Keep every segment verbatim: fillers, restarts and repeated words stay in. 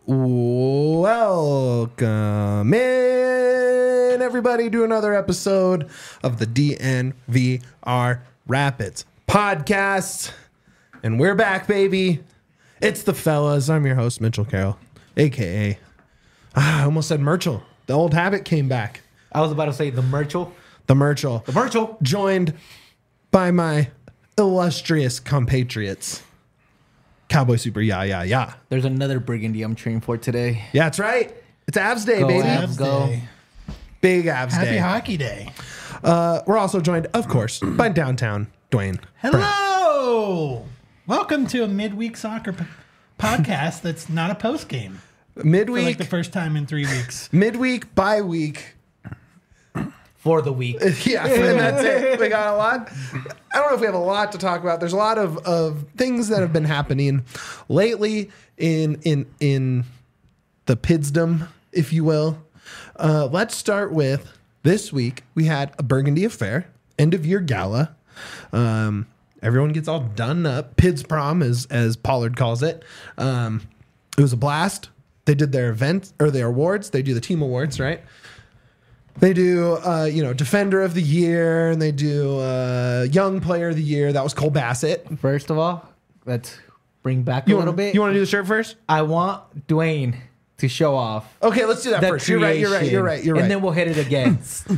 Welcome in, everybody, to another episode of the D N V R Rapids podcast. And we're back, baby. It's the fellas. I'm your host, Mitchell Carroll, a k a. Ah, I almost said Merchel. The old habit came back. I was about to say the Merchel. The Merchel. The Merchel. Joined by my illustrious compatriots. Cowboy Super, yeah, yeah, yeah. There's another Burgundy I'm cheering for today. Yeah, that's right. It's Avs Day, Go baby. Avs, go. Day. Big Avs Happy Day. Hockey Day. Uh, we're also joined, of course, by Downtown Dwayne. Hello. Welcome to a midweek soccer p- podcast that's not a post game. For Midweek, like the first time in three weeks. midweek, bye week. For the week. Yeah, and that's it. We got a lot. I don't know if we have a lot to talk about. There's a lot of, of things that have been happening lately in in in the Pidsdom, if you will. Uh, let's start with this week. We had a Burgundy Affair, end of year gala. Um, everyone gets all done up. Pids prom, as as Pollard calls it. Um, it was a blast. They did their event or their awards. They do the team awards, right? They do, uh, you know, Defender of the Year, and they do uh, Young Player of the Year. That was Cole Bassett. First of all, let's bring back You a little wanna, bit. You want to do the shirt first? I want Dwayne to show off. Okay, let's do that the first. You're right. You're right. You're right. You're right. And then we'll hit it again.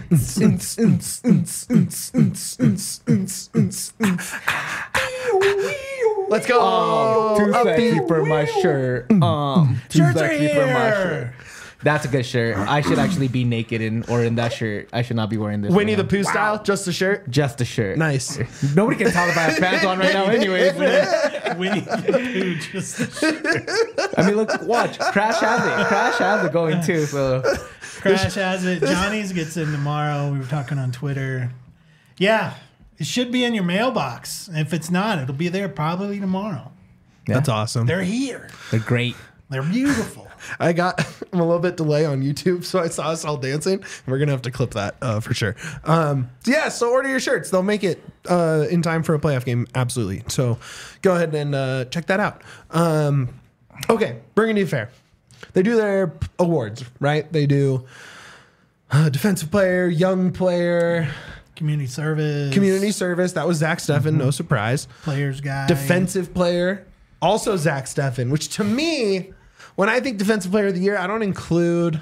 Let's go. Um, too Upbeat. sexy for my shirt. Um, too Shirts are sexy for my here. shirt. That's a good shirt. I should actually be naked in or in that shirt. I should not be wearing this. Winnie right the now. Pooh style, just the shirt. Just the shirt. Nice. Nobody can tell if I have pants on right now, anyways. Winnie the Pooh just I mean, look, watch. Crash has it. Crash has it going too. So Crash has it. Johnny's gets in tomorrow. We were talking on Twitter. Yeah, it should be in your mailbox. If it's not, it'll be there probably tomorrow. yeah, That's awesome. They're here. they're great. They're beautiful. I got I'm a little bit delay on YouTube, so I saw us all dancing. We're gonna have to clip that uh, for sure. Um, yeah, so order your shirts; they'll make it uh, in time for a playoff game. Absolutely. So go ahead and uh, check that out. Um, okay, Burgundy Fair. They do their awards, right? They do uh, defensive player, young player, Community service. community service. That was Zach Steffen, no surprise. Players guy. Defensive player, also Zach Steffen, which to me, when I think defensive player of the year, I don't include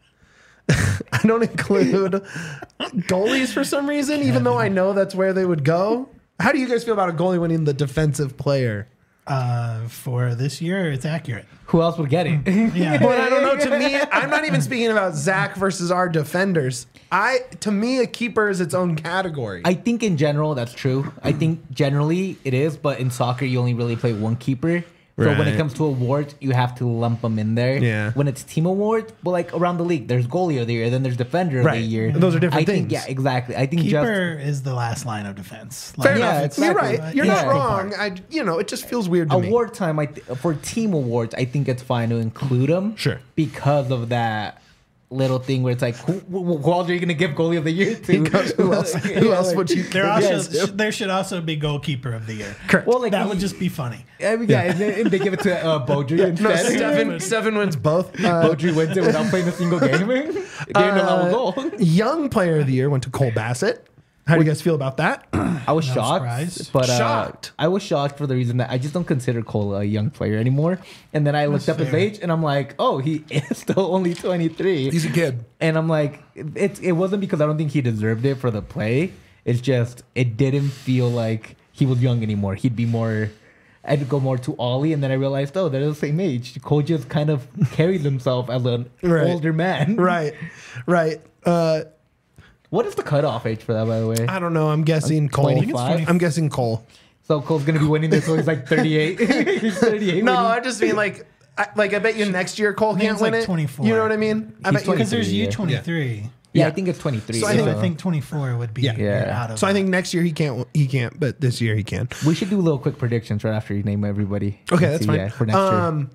I don't include goalies for some reason, even though I know that's where they would go. How do you guys feel about a goalie winning the defensive player? Uh, for this year, it's accurate. Who else would get it? Yeah. But I don't know. To me, I'm not even speaking about Zach versus our defenders. I to me, a keeper is its own category. I think in general that's true. I think generally it is, but in soccer you only really play one keeper. So when Right. it comes to awards, you have to lump them in there. Yeah. When it's team awards, but like around the league, there's goalie of the year, then there's defender of Right. the year. Those are different I think, things. Yeah, exactly. I think Keeper is the last line of defense. Fair Like, Yeah, enough. it's You're exactly. right. You're Yeah. not wrong. I, you know, it just feels weird to just me. award time. I th- for team awards, I think it's fine to include them. Sure. Because of that little thing where it's like, who, who, who else are you going to give goalie of the year to? Because who else? Who Yeah, else like- would you? There also Yes. there should also be goalkeeper of the year. Correct. Well, like That would just be funny. I mean, yeah, and they, and they give it to uh, Beaudry No, instead. Stefan, Stefan wins both. Uh, Beaudry wins it without playing a single game. They didn't allow a goal. Young player of the year went to Cole Bassett. How do you guys feel about that? I was No shocked, surprise. but uh, Shocked. I was shocked for the reason that I just don't consider Cole a young player anymore. And then I looked That's up his fair. age, and I'm like, oh, he is still only twenty-three. He's a kid. And I'm like, it, it wasn't because I don't think he deserved it for the play. It's just, it didn't feel like he was young anymore. He'd be more, I'd go more to Ollie. And then I realized, oh, they're the same age. Cole just kind of carried himself as an Right. older man. Right, right. Uh, What is the cutoff age for that, by the way? I don't know. I'm guessing Cole. twenty-five? I'm guessing Cole. So Cole's going to be winning this, so he's like thirty-eight. He's thirty-eight. No, winning. I just mean like, I, like I bet you next year Cole think can't it's win like it. twenty-four. You know what I mean? I He's bet you. Because there's twenty-three, U yeah. twenty-three. Yeah, Yeah. I think it's twenty-three. So I So think- I think twenty-four would be Yeah. you're Yeah. out of So I that. think next year he can't. He can't, but this year he can. we should do little quick predictions right after you name everybody. Okay, And that's see, fine. Yeah, for next year. Um,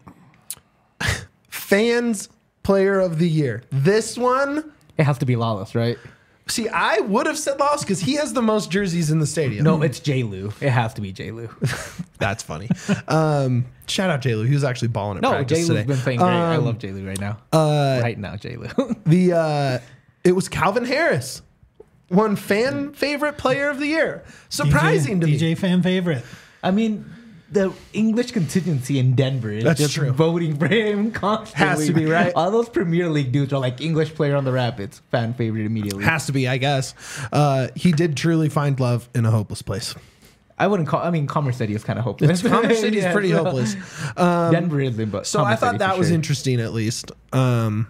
fans player of the year. This one, It has to be Lawless, right? See, I would have said Laos because he has the most jerseys in the stadium. No, it's J. Lou. It has to be J. Lou. That's funny. Um, shout out J. Lou. He was actually balling at No, practice J. today. Lou's been playing great. I Um, love J. Lou right now. Uh, right now, J. Lou. the uh, it was Calvin Harris, one fan favorite player of the year. Surprising D J, to me. D J fan favorite. I mean, the English contingency in Denver is That's just true. voting for him constantly. Has to be, right? All those Premier League dudes are like English player on the Rapids, fan favorite immediately. Has to be, I guess. Uh, he did truly find love in a hopeless place. I wouldn't call. I mean, Commerce City is kind of hopeless. Commerce City is Yeah, pretty so- hopeless. Um, Denver isn't, but so I Commerce thought City that for was sure. interesting, at least. Um,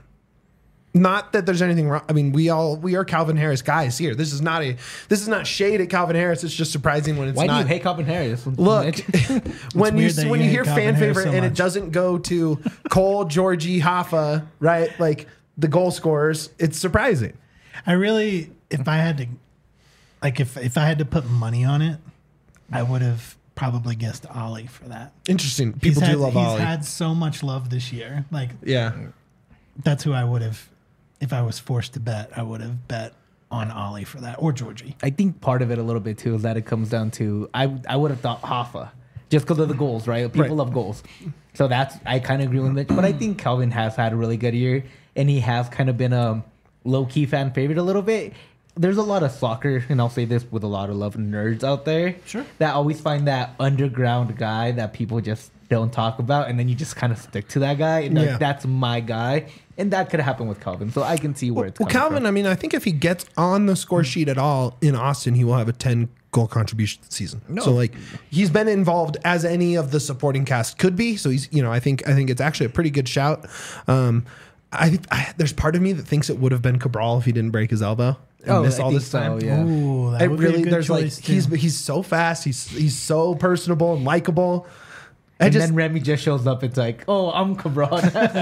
not that there's anything wrong. I mean, we all we are Calvin Harris guys here. This is not a this is not shade at Calvin Harris. It's just surprising when it's Why not. do you hate Calvin Harris? Look, when you weird that when you you hate hear Calvin fan Harris favorite so and it much. doesn't go to Cole, Georgie, Hoffa, right? Like the goal scorers, it's surprising. I really, if I had to, like, if if I had to put money on it, I would have probably guessed Ollie for that. Interesting. He's People had, do love he's Ollie. had so much love this year. Like, Yeah. that's who I would have, if I was forced to bet, I would have bet on Ollie for that or Georgie. I think part of it a little bit too is that it comes down to I I would have thought Hoffa just because of the goals, right? People Right. love goals, so that's I kind of agree with it. But I think Calvin has had a really good year, and he has kind of been a low key fan favorite a little bit. There's a lot of soccer, and I'll say this with a lot of love nerds out there, Sure. that always find that underground guy that people just don't talk about, and then you just kind of stick to that guy, and Yeah. like that's my guy, and that could happen with Calvin. So I can see where it's Well, coming Calvin, from. I mean, I think if he gets on the score sheet at all in Austin, he will have a ten goal contribution this season. No. So like he's been involved as any of the supporting cast could be. So he's, you know, I think I think it's actually a pretty good shout. Um, I think I, there's part of me that thinks it would have been Cabral if he didn't break his elbow and Oh, miss I all think this so, time. yeah. Ooh, that I would really be a good there's like choice he's too. he's so fast. He's he's so personable and likable. I And just then Remy just shows up. It's like, oh, I'm Cabral.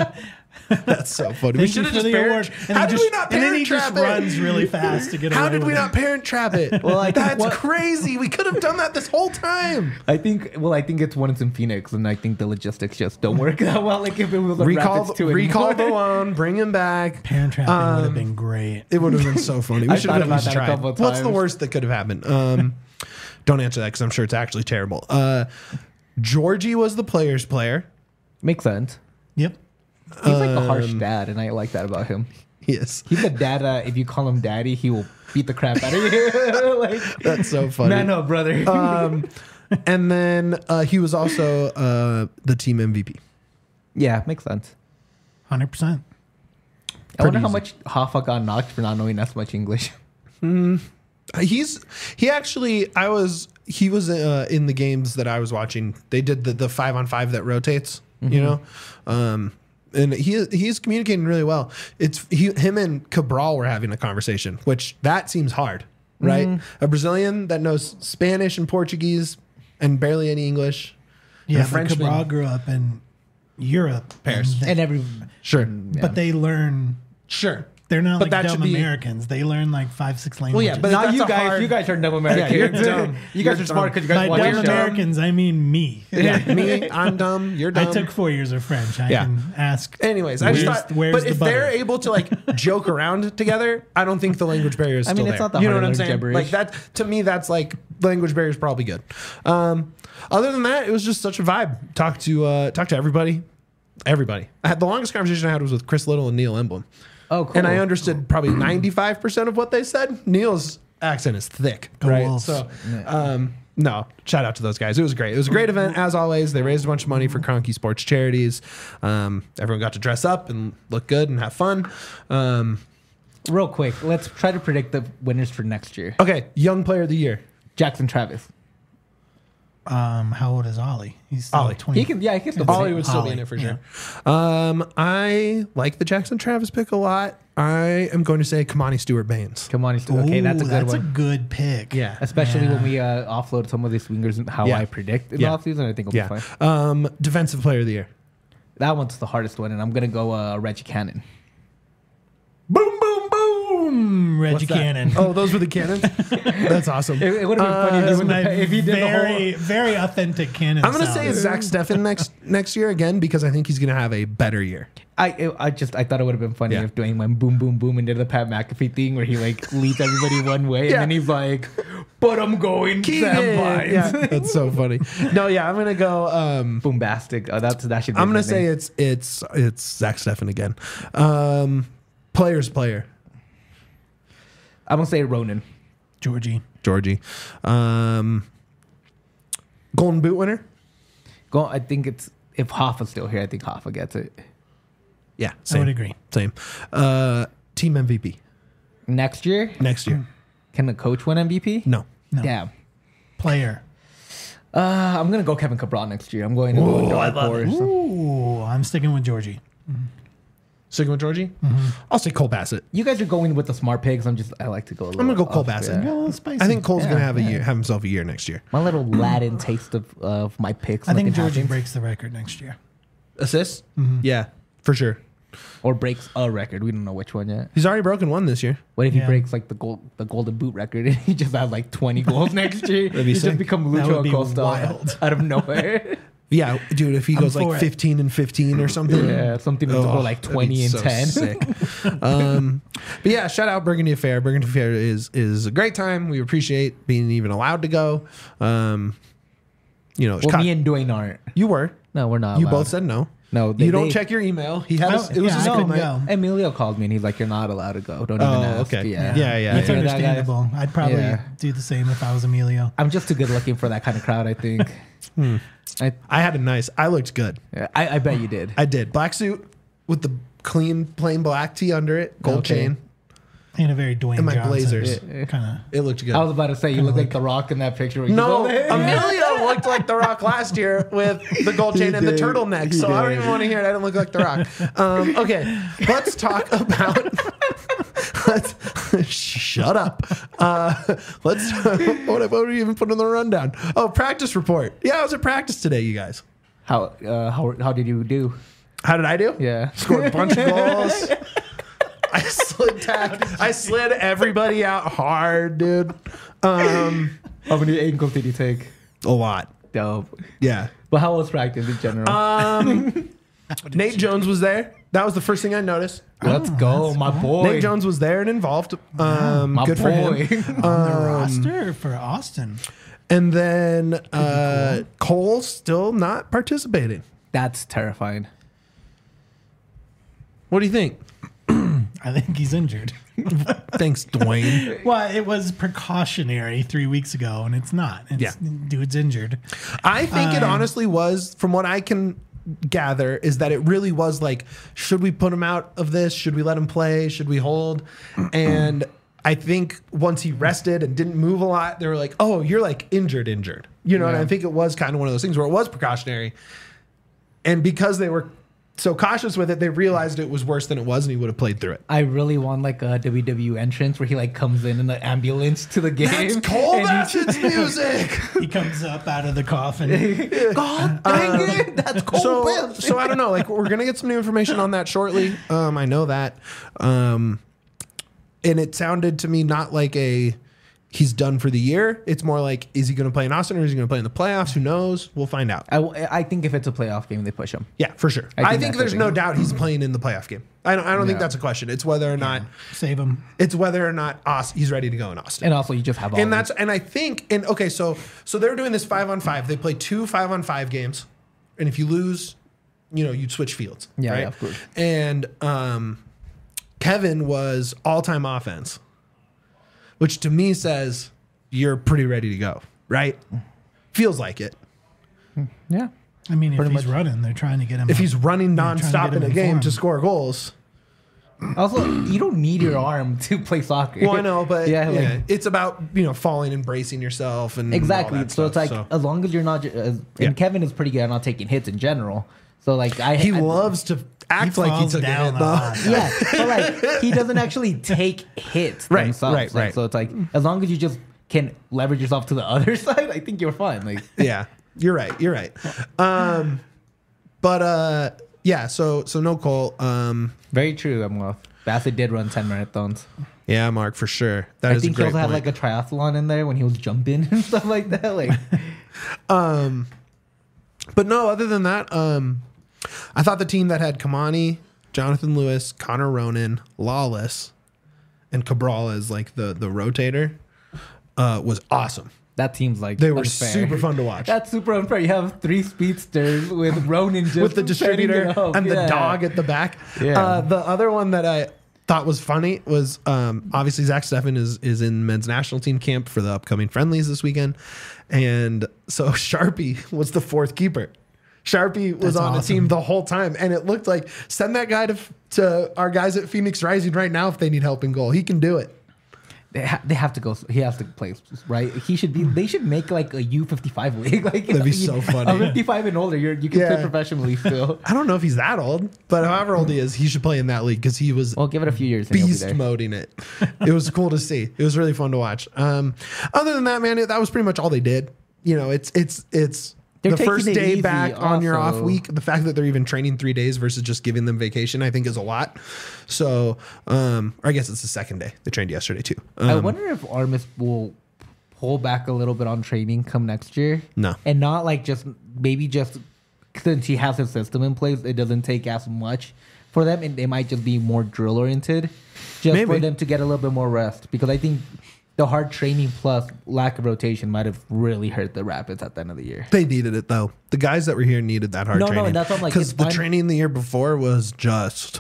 that's so funny. We Thank you should have for just the parent. award. And How he did just- we not And then he parent just trap it? runs really fast to get How away did we with not it. parent trap it? Well, I think That's what- crazy. We could have done that this whole time. I think. Well, I think it's when it's in Phoenix, and I think the logistics just don't work that well. Like if it was a Recall, Rapids too recall the anymore. loan, bring him back. Parent trapping would Um, have been great. It would have been so funny. We I should have thought at about least that a tried. couple of What's the times. worst that could have happened? Um, don't answer that because I'm sure it's actually terrible. Uh, Georgie was the player's player. Makes sense. Yep. He's like a harsh Um, dad, and I like that about him. Yes, He's a dad. Uh, if you call him daddy, he will beat the crap out of you. Like, that's so funny. man up, brother. Um, and then uh, he was also uh, the team M V P. yeah, makes sense. one hundred percent. I wonder Pretty how easy. much Hoffa got knocked for not knowing that much English. Uh, He's he actually I was he was uh, in the games that I was watching. They did the the five on five that rotates, you know, um, and he he's communicating really well. It's he, him and Cabral were having a conversation, which that seems hard, right? A Brazilian that knows Spanish and Portuguese and barely any English. Yeah, a but Frenchman. Cabral grew up in Europe. Paris. and they- And every Sure, But they learn, sure. they're not But like that dumb should be- Americans. They learn like five, six Well, languages. yeah, but not that's you a guys. hard- You guys are dumb Americans. Yeah, you're dumb. You guys You're are smart dumb. because you guys By watch dumb the show. Americans, I mean me. Yeah, me, I'm dumb. You're I dumb. took four years of French. I Yeah. can ask. Anyways, I just Where's- thought, where's but the if they're butter? able to like joke around together, I don't think the language barrier is I still mean, it's there. not that you know hard what I'm to learn saying? gibberish. Like that to me, that's like language barrier is probably good. Um, other than that, it was just such a vibe. Talk to uh, talk to everybody, everybody. I had the longest conversation I had was with Chris Little and Neil Emblem, Oh, cool. and I understood probably ninety-five percent of what they said. Neil's accent is thick, Go right? Wolves. So, um, no, shout out to those guys. It was great. It was a great event as always. They raised a bunch of money for Cronky Sports charities. Um, everyone got to dress up and look good and have fun. Um, Real quick, let's try to predict the winners for next year. okay, young player of the year. Jackson Travis. Um, how old is Ollie? He's still Ollie. twenty. He can. Yeah, he can. Still Ollie Ollie play. would still be Ollie, in it for yeah. sure. Um, I like the Jackson Travis pick a lot. I am going to say Kamani Stewart Baines. Come on, he's still okay. That's a Ooh, good that's one. a good pick. Yeah. Especially Yeah. when we uh, offload some of these wingers and how Yeah. I predict in Yeah. the offseason, I think it'll Yeah. be fine. Um, defensive player of the year. That one's the hardest one, and I'm gonna go uh, Reggie Cannon. Boom, boom, boom. Reggie What's that? Cannon. Oh, those were the cannons. That's awesome. It, it would have been Uh, funny if, That's he my would- if he did very, the whole. very authentic Cannon. I'm going to sound. say it's Zach Steffen next next year again because I think he's going to have a better year. I I just I thought it would have been funny Yeah. if Dwayne went boom boom boom and did the Pat McAfee thing where he like leads everybody one way Yeah. and then he's like, but I'm going Sam Vines. Yeah, that's so funny. No, yeah, I'm gonna go. Um, Boombastic. Oh, that's that should. Be I'm gonna his say name. it's it's it's Zach Steffen again. Um, players player I'm gonna say Ronan. Georgie. Georgie. Um, Golden Boot winner. Go. I think it's if Hoffa's still here. I think Hoffa gets it Yeah, I same. would agree. Same. Uh, team M V P next year. next year. Can the coach win M V P? No. No. Damn. Player. Uh, I'm gonna go Kevin Cabral next year. I'm going to go dark horse. Ooh, I'm sticking with Georgie. Sticking with Georgie. Mm-hmm. I'll say Cole Bassett. You guys are going with the smart picks. I'm just. I like to go. A little I'm gonna go Cole off, Bassett. Yeah, a yeah. little spicy. I think Cole's Yeah, gonna have a yeah. year, have himself a year next year. My little Latin taste of of my picks. I think looking Georgie happens. breaks the record next year. Assists. Yeah, for sure. or breaks a record. We don't know which one yet. He's already broken one this year. What if he Yeah. breaks like the gold, the golden boot record, and he just has like twenty goals next year? That'd be He sick. just become That Lucho would be Acosta wild. out of nowhere. Yeah, dude. If he I'm goes for like it. fifteen and fifteen or something. yeah, something to Oh, go like that'd be twenty and so ten. Sick. um, but yeah, shout out Burgundy Affair. Burgundy Affair is is a great time. We appreciate being even allowed to go. Um, you know, Well, co- me and Dwayne aren't. you were. No, we're not. You allowed. both said no. no. They, You don't they- check your email. He had. I A, don't- it was yeah, a I school couldn't night. go. Emilio called me and he's like, "You're not allowed to go. Don't even Oh, ask." okay. Yeah, Yeah, yeah. That's You hear that, guys? understandable. I'd probably Yeah. do the same if I was Emilio. I'm just too good looking for that kind of crowd. I think. Hmm. I, I had a nice. I looked good. yeah, I I bet you did. I did. Black suit with the clean plain black tee under it, gold Okay. chain. In a very Dwayne And my Johnson blazers. kind of. It looked good. I was about to say you Kinda look like like- The Rock in that picture. Where you No, go, "Hey." Emilio looked like The Rock last year with the gold chain and the did. turtleneck. He So I don't did. even want to hear it. I don't look like The Rock. Um, okay, let's talk about. let's shut up. Uh, let's. What, what were you even put in the rundown? Oh, practice report. Yeah, I was at practice today, you guys. How uh, how how did you do? How did I do? Yeah. Scored a bunch of goals. I slid tack. I slid everybody out hard, dude. Um, How many ankles did you take? a lot. Dope. Yeah. But how was practice in general? Um, Nate Jones was there. That was the first thing I noticed. Let's go, my boy. Nate Jones was there and involved. Um, my good for boy. him. On the roster for Austin. And then uh, Cole still not participating. That's terrifying. What do you think? I think he's injured. Thanks, Dwayne. Well, it was precautionary three weeks ago, and it's not. It's, Yeah. Dude's injured. I think it Um, honestly was, from what I can gather, is that it really was like, should we put him out of this? Should we let him play? Should we hold? And I think once he rested and didn't move a lot, they were like, oh, you're like injured, injured. You know, and Yeah. I think it was kind of one of those things where it was precautionary. And because they were so cautious with it, they realized it was worse than it was and he would have played through it. I really want like a W W E entrance where he like comes in in the ambulance to the game. That's Cole and he- Bassett's music. He comes up out of the coffin. God dang it! That's Cole so, Bassett. so I don't know. Like we're gonna get some new information on that shortly. Um, I know that. Um, and it sounded to me not like a he's done for the year. It's more like, is he gonna play in Austin or is he gonna play in the playoffs? Who knows? We'll find out. I, I think if it's a playoff game, they push him. Yeah, for sure. I I think think, that's there's the no thing. doubt he's playing in the playoff game. I don't. I don't think Yeah. that's a question. It's whether or not Save him. it's whether or not Aust- he's ready to go in Austin. And also, you just have all. And these- that's and I think and okay, so so they're doing this five on five. They play two five on five games, and if you lose, you know you'd switch fields. Yeah, right? yeah, of course. And um, Kevin was all time offense, which to me says you're pretty ready to go, right? Feels like it. yeah. I mean, if Pretty he's much. running, they're trying to get him. If up. he's running Yeah, trying to nonstop get in him a game informed. to score goals. Also, you don't need your arm to play soccer. Well, I know, but yeah, yeah, like, it's about you know falling and bracing yourself and all exactly. that So stuff, it's like as long as you're not, ju- uh, Yeah. and Kevin is pretty good at not taking hits in general. So like I, he I, loves to act like he falls took down a hit. a though. lot. Yeah, but like he doesn't actually take hits Right, themselves. right, Like, right. So it's like as long as you just can leverage yourself to the other side, I think you're fine. Like Yeah, you're right. You're right. Um, but uh, yeah. So so no Cole. Um, very true. I'm well. Bassett did run ten marathons. yeah, Mark for sure. That I is think a he great also had point. like a triathlon in there when he was jumping and stuff like that. Like um, but no. Other than that, um, I thought the team that had Kamani, Jonathan Lewis, Connor Ronan, Lawless, and Cabral as like the the rotator uh, was awesome. That team's like They were unfair. super fun to watch. That's super unfair. You have three speedsters with Ronan just With the setting distributor it up. and the Yeah. dog at the back. Yeah. Uh, the other one that I thought was funny was um, obviously Zach Steffen is is in men's national team camp for the upcoming friendlies this weekend, and so Sharpie was the fourth keeper. Sharpie was That's on the awesome. team the whole time, and it looked like send that guy to to our guys at Phoenix Rising right now if they need help in goal. He can do it. They, ha- they have to go. He has to play, right? He should be. They should make like a U fifty-five league. Like That'd be so funny. A fifty-five and older, you're, you can Yeah. play professionally still. I don't know if he's that old, but however old he is, he should play in that league because he was Well, give it a few years. And he'll be beast there. moding it. It was cool to see. It was really fun to watch. Um, other than that, man, it, that was pretty much all they did. You know, it's it's it's They're the taking first it day easy back on your off also. week. The fact that they're even training three days versus just giving them vacation, I think, is a lot. So, um, or I guess it's the second day. They trained yesterday too. Um, I wonder if Armis will pull back a little bit on training come next year. No. And not like just maybe just since he has his system in place, it doesn't take as much for them, and they might just be more drill oriented, just Maybe. for them to get a little bit more rest. Because I think the hard training plus lack of rotation might have really hurt the Rapids at the end of the year. They needed it though. The guys that were here needed that hard No, no, training. and that's what I'm like, because it's the fine. training the year before was just,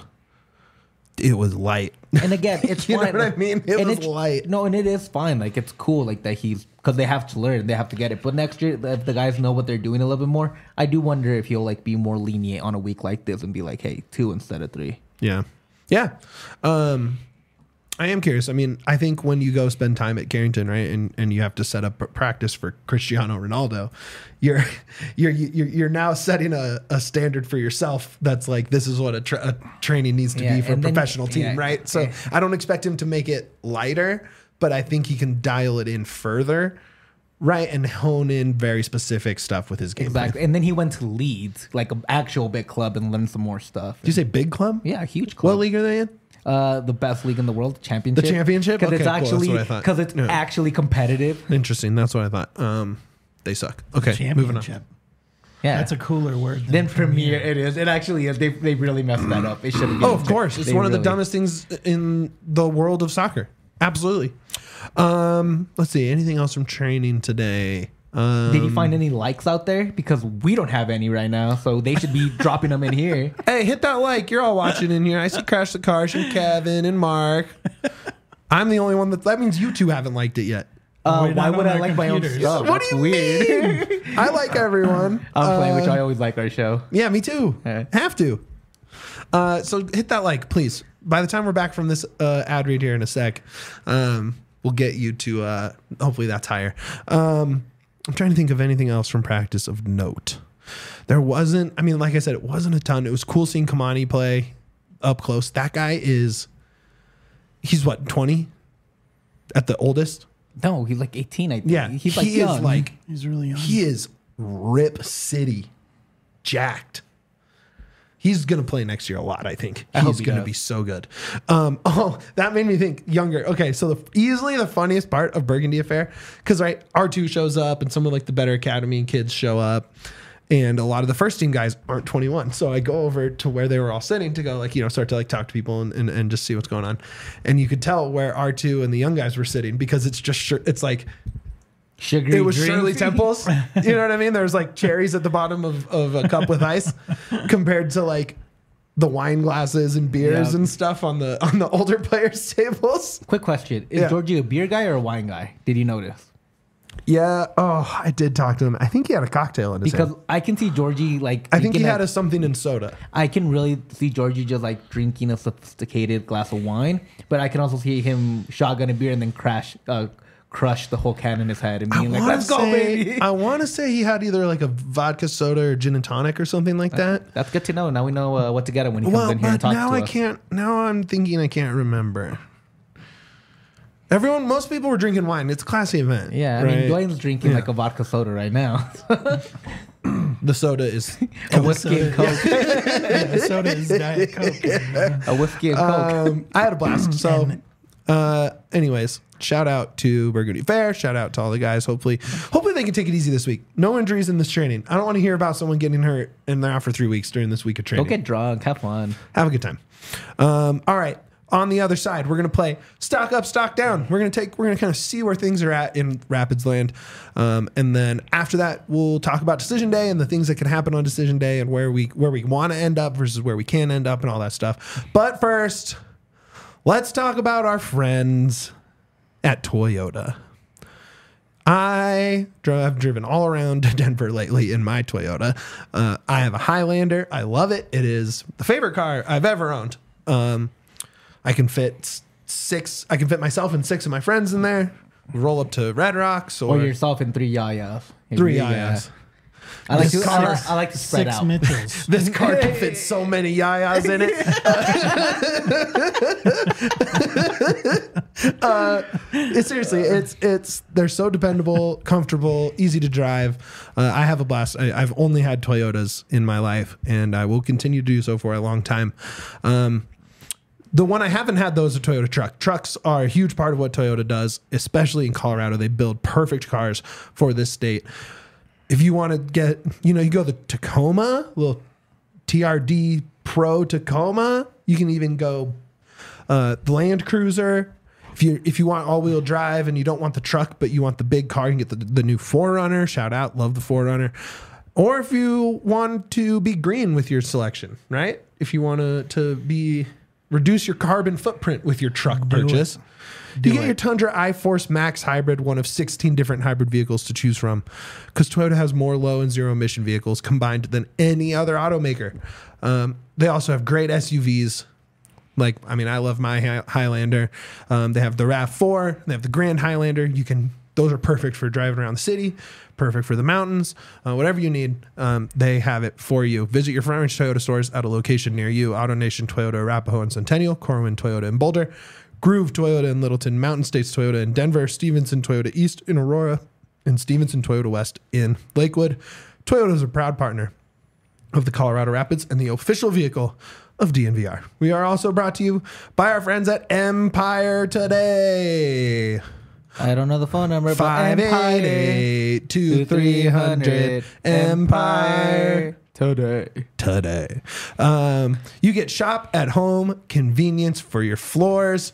it was light. And again, it's You know fine. what I mean? It And was it's- light. No, and it is fine. Like it's cool, like that he's because they have to learn, they have to get it. But next year, if the guys know what they're doing a little bit more, I do wonder if he'll like be more lenient on a week like this and be like, hey, two instead of three. Yeah. Yeah. Um, I am curious. I mean, I think when you go spend time at Carrington, right, and, and you have to set up a practice for Cristiano Ronaldo, you're you're you're, you're now setting a, a standard for yourself that's like this is what a, tra- a training needs to Yeah, be for a and then- professional team, yeah, right? So yeah. I don't expect him to make it lighter, but I think he can dial it in further, right, and hone in very specific stuff with his game. plan. Exactly. And then he went to Leeds, like an actual big club, and learned some more stuff. Did you say big club? Yeah, a huge club. What league are they in? Uh, the best league in the world, championship. The championship? because Okay, it's cool. That's actually what I thought. because it's Yeah. actually competitive. Interesting. That's what I thought. Um, they suck. Okay, moving on. Championship. Yeah, That's a cooler word than then premier. It is. It actually is. They they really messed that up. It should have. Oh, of course. It's They one of the really- dumbest things in the world of soccer. Absolutely. Um, let's see. Anything else from training today? Um, Did you find any likes out there? Because we don't have any right now, so they should be dropping them in here. Hey, hit that like. You're all watching in here. I see Crash the Cars and Kevin and Mark. I'm the only one that. That means you two haven't liked it yet. Uh, We're why not would on I our like my own computers. stuff? What That's do you weird. mean? I like everyone. I'm playing, which Uh, I always like our show. Yeah, me too. Yeah. Have to. Uh, so hit that like, please. By the time we're back from this uh, ad read here in a sec, um, we'll get you to. Uh, hopefully that's higher. Um, I'm trying to think of anything else from practice of note. There wasn't. I mean, like I said, it wasn't a ton. It was cool seeing Kamani play up close. That guy is. He's what, twenty? At the oldest. No, he's like eighteen. I think. Yeah, he's like he young. is like. He's really young. He is Rip City, jacked. He's gonna play next year a lot. I think I hope he's he gonna does. be so good. Um, oh, that made me think younger. Okay, so the easily the funniest part of Burgundy Affair, because right, R two shows up and some of like the better academy kids show up, and a lot of the first team guys aren't twenty-one. So I go over to where they were all sitting to go like you know start to like talk to people and, and, and just see what's going on, and you could tell where R two and the young guys were sitting because it's just sure it's like. Sugary It was drinks. Shirley Temples. You know what I mean? There's like cherries at the bottom of, of a cup with ice compared to like the wine glasses and beers Yeah. and stuff on the on the older players' tables. Quick question: Is Yeah. Georgie a beer guy or a wine guy? Did you notice? Yeah. Oh, I did talk to him. I think he had a cocktail in his Because hand. I can see Georgie like. I think he drinking had a- a something in soda. I can really see Georgie just like drinking a sophisticated glass of wine, but I can also see him shotgun a beer and then crash, uh, crush the whole can in his head and being like, wanna "Let's go, say- baby!" I want to say he had either like a vodka soda or gin and tonic or something like that. That's good to know. Now we know uh, what to get him when he comes Well, in here and but talks now to I us. can't. Now I'm thinking I can't remember. Everyone, most people were drinking wine. It's a classy event. Yeah, I right? mean, Dwayne's drinking Yeah. like a vodka soda right now. The soda is a whiskey and coke. Yeah, the soda is Diet Coke. A whiskey and coke. Um, I had a blast. So, And Uh, anyways, shout out to Burgundy Fair. Shout out to all the guys. Hopefully, hopefully they can take it easy this week. No injuries in this training. I don't want to hear about someone getting hurt and they're out for three weeks during this week of Go training. get drunk. Have fun. Have a good time. Um, all right. On the other side, we're gonna play stock up, stock down. We're gonna take, we're gonna kind of see where things are at in Rapids land, um, and then after that, we'll talk about decision day and the things that can happen on decision day and where we where we want to end up versus where we can end up and all that stuff. But first, let's talk about our friends at Toyota. I have driven all around Denver lately in my Toyota. Uh, I have a Highlander. I love it. It is the favorite car I've ever owned. Um, I can fit six. I can fit myself and six of my friends in there. Roll up to Red Rocks or, Or yourself in three yayas. three Yeah. yayas. I like This to. I car- like, I like to spread Six out. Mitchells. This car can fit so many yayas in it. uh, it- seriously, it's it's they're so dependable, comfortable, easy to drive. Uh, I have a blast. I, I've only had Toyotas in my life, and I will continue to do so for a long time. Um, The one I haven't had, though, is a Toyota truck. Trucks are a huge part of what Toyota does, especially in Colorado. They build perfect cars for this state. If you want to get, you know, you go the Tacoma, little T R D Pro Tacoma. You can even go uh, the Land Cruiser. If you if you want all-wheel drive and you don't want the truck, but you want the big car, you can get the, the new four runner. Shout out, love the four runner. Or if you want to be green with your selection, right? If you want to to be... reduce your carbon footprint with your truck Do purchase. it. You Do get it. your Tundra iForce Max Hybrid, one of sixteen different hybrid vehicles to choose from, because Toyota has more low and zero emission vehicles combined than any other automaker. Um, they also have great S U Vs. Like, I mean, I love my Hi- Highlander. Um, they have the RAV four. They have the Grand Highlander. You can; those are perfect for driving around the city, perfect for the mountains, uh, whatever you need. Um, they have it for you. Visit your Front Range Toyota stores at a location near you. AutoNation Toyota, Arapahoe and Centennial, Corwin Toyota in Boulder, Groove Toyota in Littleton, Mountain States Toyota in Denver, Stevenson Toyota East in Aurora, and Stevenson Toyota West in Lakewood. Toyota is a proud partner of the Colorado Rapids and the official vehicle of D N V R. We are also brought to you by our friends at Empire Today. I don't know the phone number. but Five eight eight two three hundred Empire today. Today. Um, you get shop at home convenience for your floors.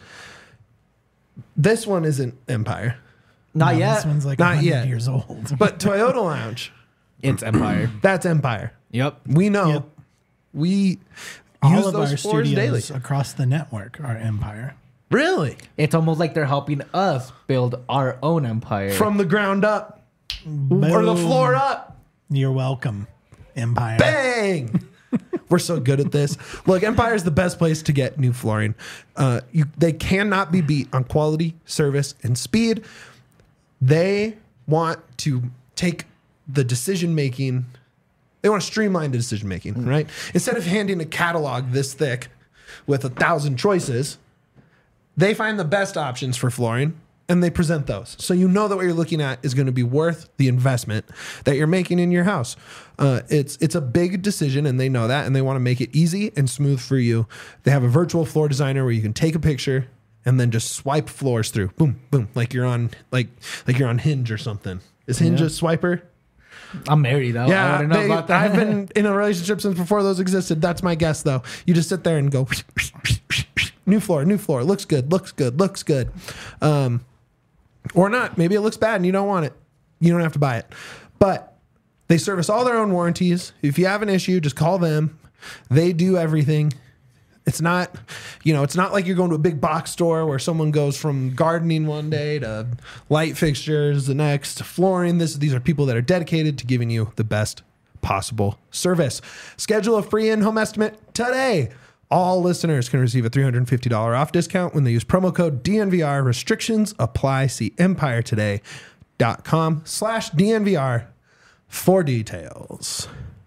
This one isn't Empire, Not No, yet. This one's like Not one hundred yet. years old. but Toyota Lounge, It's Empire. that's Empire. Yep. We know. Yep. We All use of those our floors daily. studios across the network are Empire. Really? It's almost like they're helping us build our own empire. From the ground up or the Boom. floor up. You're welcome, Empire. Bang! We're so good at this. Look, Empire is the best place to get new flooring. Uh, you, they cannot be beat on quality, service, and speed. They want to take the decision making. They want to streamline the decision making, right? Instead of handing a catalog this thick with a thousand choices, they find the best options for flooring and they present those. So you know that what you're looking at is going to be worth the investment that you're making in your house. Uh, it's it's a big decision and they know that and they want to make it easy and smooth for you. They have a virtual floor designer where you can take a picture and then just swipe floors through. Boom, boom, like you're on like like you're on Hinge or something. Is Hinge Yeah. a swiper? I'm married though. I Yeah, wouldn't know they- about that. I've been in a relationship since before those existed. That's my guess, though. You just sit there and go, new floor, new floor. Looks good, looks good, looks good. Um, or not. Maybe it looks bad and you don't want it. You don't have to buy it. But they service all their own warranties. If you have an issue, just call them. They do everything. It's not, you know, it's not like you're going to a big box store where someone goes from gardening one day to light fixtures the next, to flooring. This, these are people that are dedicated to giving you the best possible service. Schedule a free in-home estimate today. All listeners can receive a three hundred fifty dollars off discount when they use promo code D N V R. Restrictions apply. See empiretoday.com slash DNVR for details.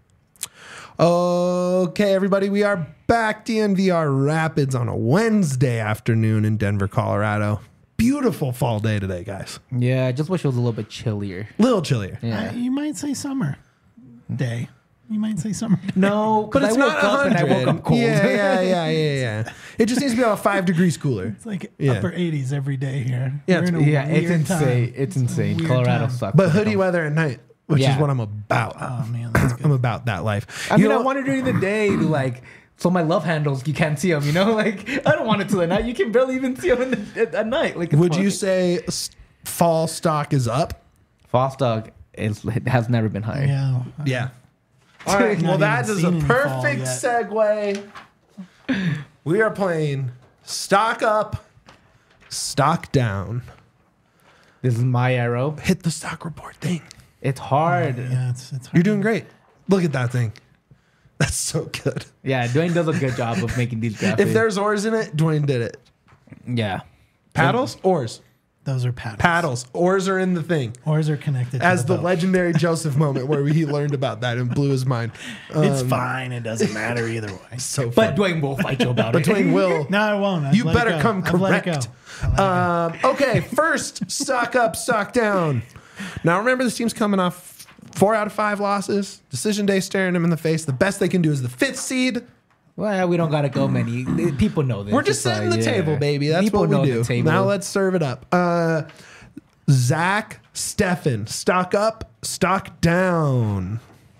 Okay, everybody, we are back. D N V R Rapids on a Wednesday afternoon in Denver, Colorado. Beautiful fall day today, guys. Yeah, I just wish it was a little bit chillier. Little chillier. Yeah. Uh, you might say summer day. You might say summer. No, But it's I woke not up and I woke one hundred. up cold. Yeah, yeah, yeah, yeah, yeah. It just needs to be about five degrees cooler. It's like Yeah. upper eighties every day here. Yeah, We're it's- in a Yeah, it's weird insane. time. It's insane. weird Colorado time. sucks. But hoodie weather at night, which is Yeah. what I'm about. Oh man, that's good. I'm about that life. I You mean, know I want it during the day to like, so my love handles, you can't see them, you know? Like, I don't want it to the night. You can barely even see them in the, at, at night. Like, it's would you funny. say s- fall stock is up? False dog is, it has never been higher. Yeah. Yeah. All right. Not Well, that even is seen a any fall perfect yet. segue. We are playing stock up, stock down. This is my arrow. Hit the stock report thing. It's hard. Yeah, Yeah, it's it's hard. You're doing great. Look at that thing. That's so good. Dwayne does a good job of making these graphics. If there's oars in it, Dwayne did it. Yeah. Paddles, oars, Those are paddles. paddles. Oars are in the thing. Oars are connected. As to the the, boat. legendary Joseph moment where he learned about that and blew his mind. It's Um, fine. It doesn't matter either way. So But fun. Dwayne will fight you about But it. Dwayne will. No, I won't. I've You let it better go. come I've let it go. correct. I let it go. Um, okay, first, stock up, stock down. Now, remember, this team's coming off four out of five losses. Decision day staring them in the face. The best they can do is the fifth seed. Well, we don't gotta go many. People know this. We're just It's setting like, the yeah. table, baby. That's People what know we the do. table. Now let's serve it up. Uh, Zach Steffen, stock up, stock down.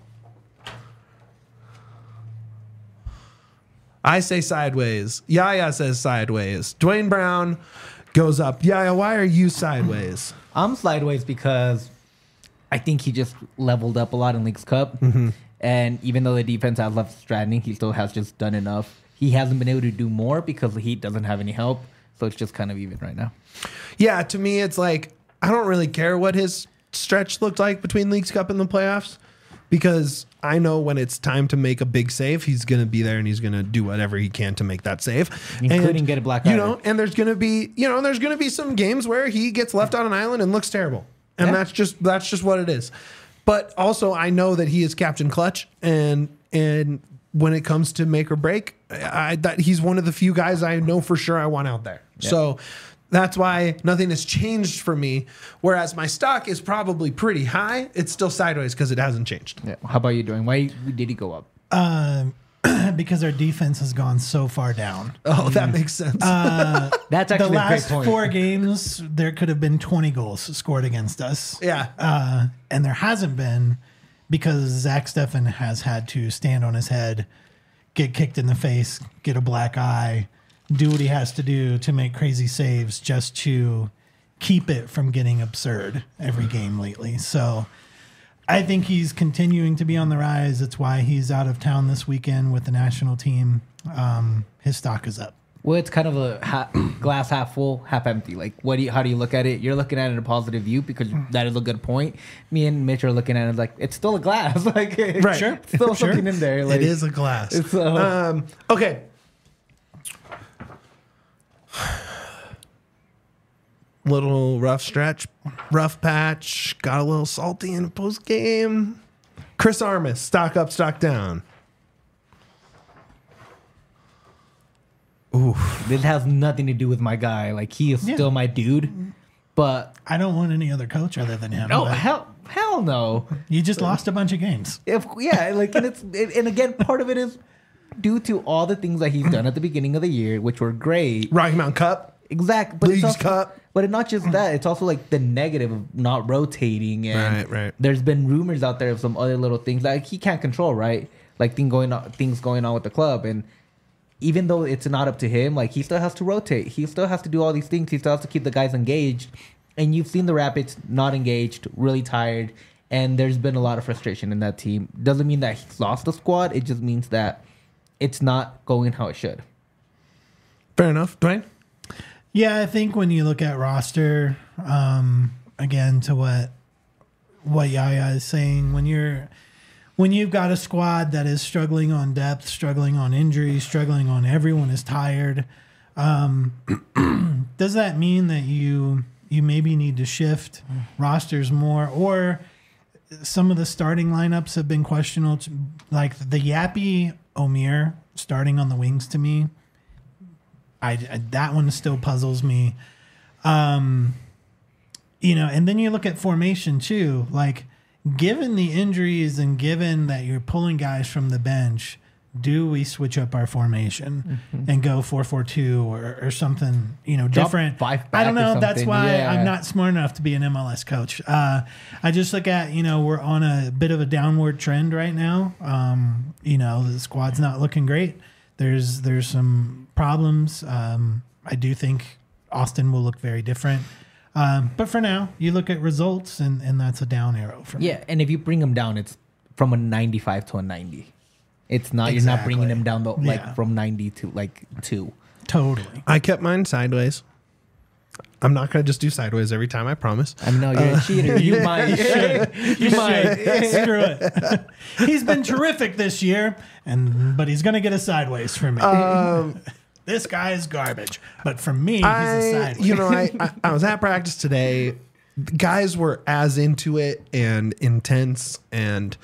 I say sideways. Yaya says sideways. Dwayne Brown goes up. Yaya, why are you sideways? I'm sideways because I think he just leveled up a lot in Leagues Cup. Mm-hmm. And even though the defense has left stranding, he still has just done enough. He hasn't been able to do more because the Heat doesn't have any help. So it's just kind of even right now. Yeah, to me, it's like, I don't really care what his stretch looked like between Leagues Cup and the playoffs because I know when it's time to make a big save, he's going to be there and he's going to do whatever he can to make that save. Including And, get a black You eye. know, and there's going to be, you know, there's going to be some games where he gets left on an island and looks terrible. And Yeah. that's just that's just what it is. But also I know that he is Captain Clutch and and when it comes to make or break, I that he's one of the few guys I know for sure I want out there. Yeah. So that's why nothing has changed for me. Whereas my stock is probably pretty high. It's still sideways because it hasn't changed. Yeah. How about you doing? Why did he go up? Um, because our defense has gone so far down. Oh, that makes sense. Uh, That's the actually a great last point. four games, there could have been twenty goals scored against us. yeah. Uh, and there hasn't been because Zach Steffen has had to stand on his head, get kicked in the face, get a black eye, do what he has to do to make crazy saves just to keep it from getting absurd every game lately. So I think he's continuing to be on the rise. That's why he's out of town this weekend with the national team. Um, his stock is up. Well, it's kind of a ha- glass half full, half empty. Like, what do you? How do you look at it? You're looking at it in a positive view because that is a good point. Me and Mitch are looking at it like it's still a glass. Like, Right. Sure. still Sure. something in there. Like, it is a glass. It's uh, Um, okay. Little rough stretch, rough patch, got a little salty in the post game. Chris Armas, stock up, stock down. this has nothing to do with my guy. Like, he is Yeah. still my dude. But I don't want any other coach other than him. no, but hell, hell no. you just lost a bunch of games. If, yeah, like, and it's and and again, part of it is due to all the things that he's done at the beginning of the year, which were great. Rocky Mountain Cup. Exactly. But it's Leagues also, Cup. But it's not just that. It's also like the negative of not rotating. And Right, right. there's been rumors out there of some other little things that he can't control, right? Like thing going on, things going on with the club. And even though it's not up to him, like he still has to rotate. He still has to do all these things. He still has to keep the guys engaged. And you've seen the Rapids not engaged, really tired. And there's been a lot of frustration in that team. Doesn't mean that he's lost the squad. It just means that it's not going how it should. Fair enough. Dwayne? Yeah, I think when you look at roster, um, again to what what Yaya is saying, when you're when you've got a squad that is struggling on depth, struggling on injuries, struggling on everyone is tired, um, does that mean that you you maybe need to shift rosters more, or some of the starting lineups have been questionable, like the Yappy Omir starting on the wings to me. I, I that one still puzzles me. Um, you know, and then you look at formation too. Like, given the injuries and given that you're pulling guys from the bench, do we switch up our formation Mm-hmm. and go four four two or, or something, you know, Drop different? five I don't back or know. That's something, why yeah. I'm not smart enough to be an M L S coach. Uh, I just look at, you know, we're on a bit of a downward trend right now. Um, you know, the squad's not looking great. There's there's some problems. Um, I do think Austin will look very different. Um, but for now, you look at results, and, and that's a down arrow for me. Yeah, and if you bring him down, it's from a ninety-five to a ninety. It's not you're not bringing Exactly. him down the, like Yeah. from ninety to like two. Totally. I kept mine sideways. I'm not going to just do sideways every time, I promise. I mean, no, you're a cheater. You might. You should. You might. Screw it. He's been terrific this year, and but he's going to get a sideways from me. Um, This guy is garbage, but for me, he's a I, sideways. you know, I, I, I was at practice today. Guys were as into it and intense, and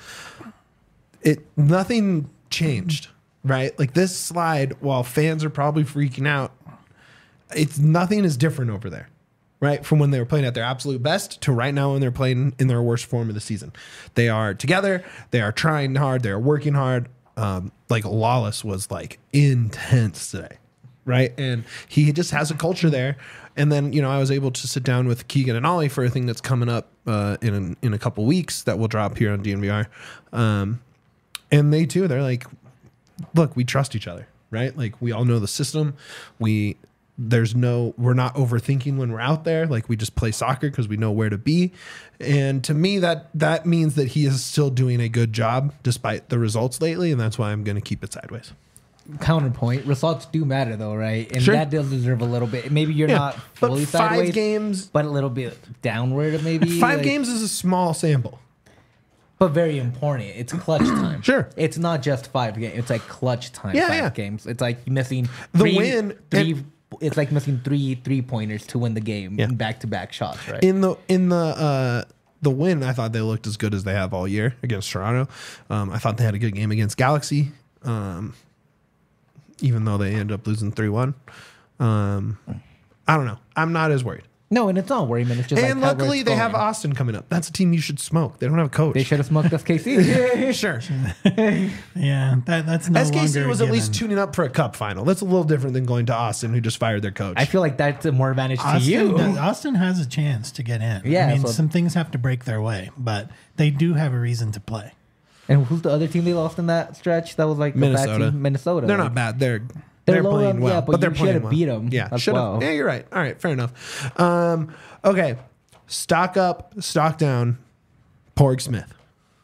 it nothing changed, right? Like this slide, while fans are probably freaking out, it's nothing is different over there, right? From when they were playing at their absolute best to right now when they're playing in their worst form of the season. They are together. They are trying hard. They are working hard. Um, like Lawless was like intense today, right? And he just has a culture there. And then, you know, I was able to sit down with Keegan and Ollie for a thing that's coming up uh, in in a couple weeks that will drop here on D N V R. Um, and they too, they're like, look, we trust each other, right? Like we all know the system. We there's no we're not overthinking when we're out there. Like we just play soccer because we know where to be. And to me, that that means that he is still doing a good job despite the results lately, and that's why I'm going to keep it sideways. Counterpoint: results do matter, though, right? And Sure. that does deserve a little bit. Maybe you're Yeah, not but fully five sideways, games, but a little bit downward, maybe. five like- games is a small sample. but very important. It's clutch time. Sure. It's not just five games. It's like clutch time. Yeah, five yeah. games. It's like missing The three, win- Three. and- It's like missing three three pointers to win the game. Yeah. Back to back shots. Right. In the in the uh, the win, I thought they looked as good as they have all year against Toronto. Um, I thought they had a good game against Galaxy, um, even though they ended up losing three one. Um, I don't know. I'm not as worried. no, and it's not worry, man. It's just And like how luckily, it's they have going. Austin coming up. That's a team you should smoke. They don't have a coach. They should have smoked us K C. Sure. yeah, that, that's no S K C longer was a at least given. tuning up for a cup final. That's a little different than going to Austin, who just fired their coach. I feel like that's a more advantage to Austin, you. does- Austin has a chance to get in. Yeah, I mean, so- some things have to break their way, but they do have a reason to play. And who's the other team they lost in that stretch? That was like a bad Minnesota. team? Minnesota. They're like- not bad. They're They're they're, low playing up, well, yeah, but, but they're you playing should've well. beat 'em Yeah, as should have. well. Yeah, you're right. All right, fair enough. Um, okay, stock up, stock down. Porg Smith.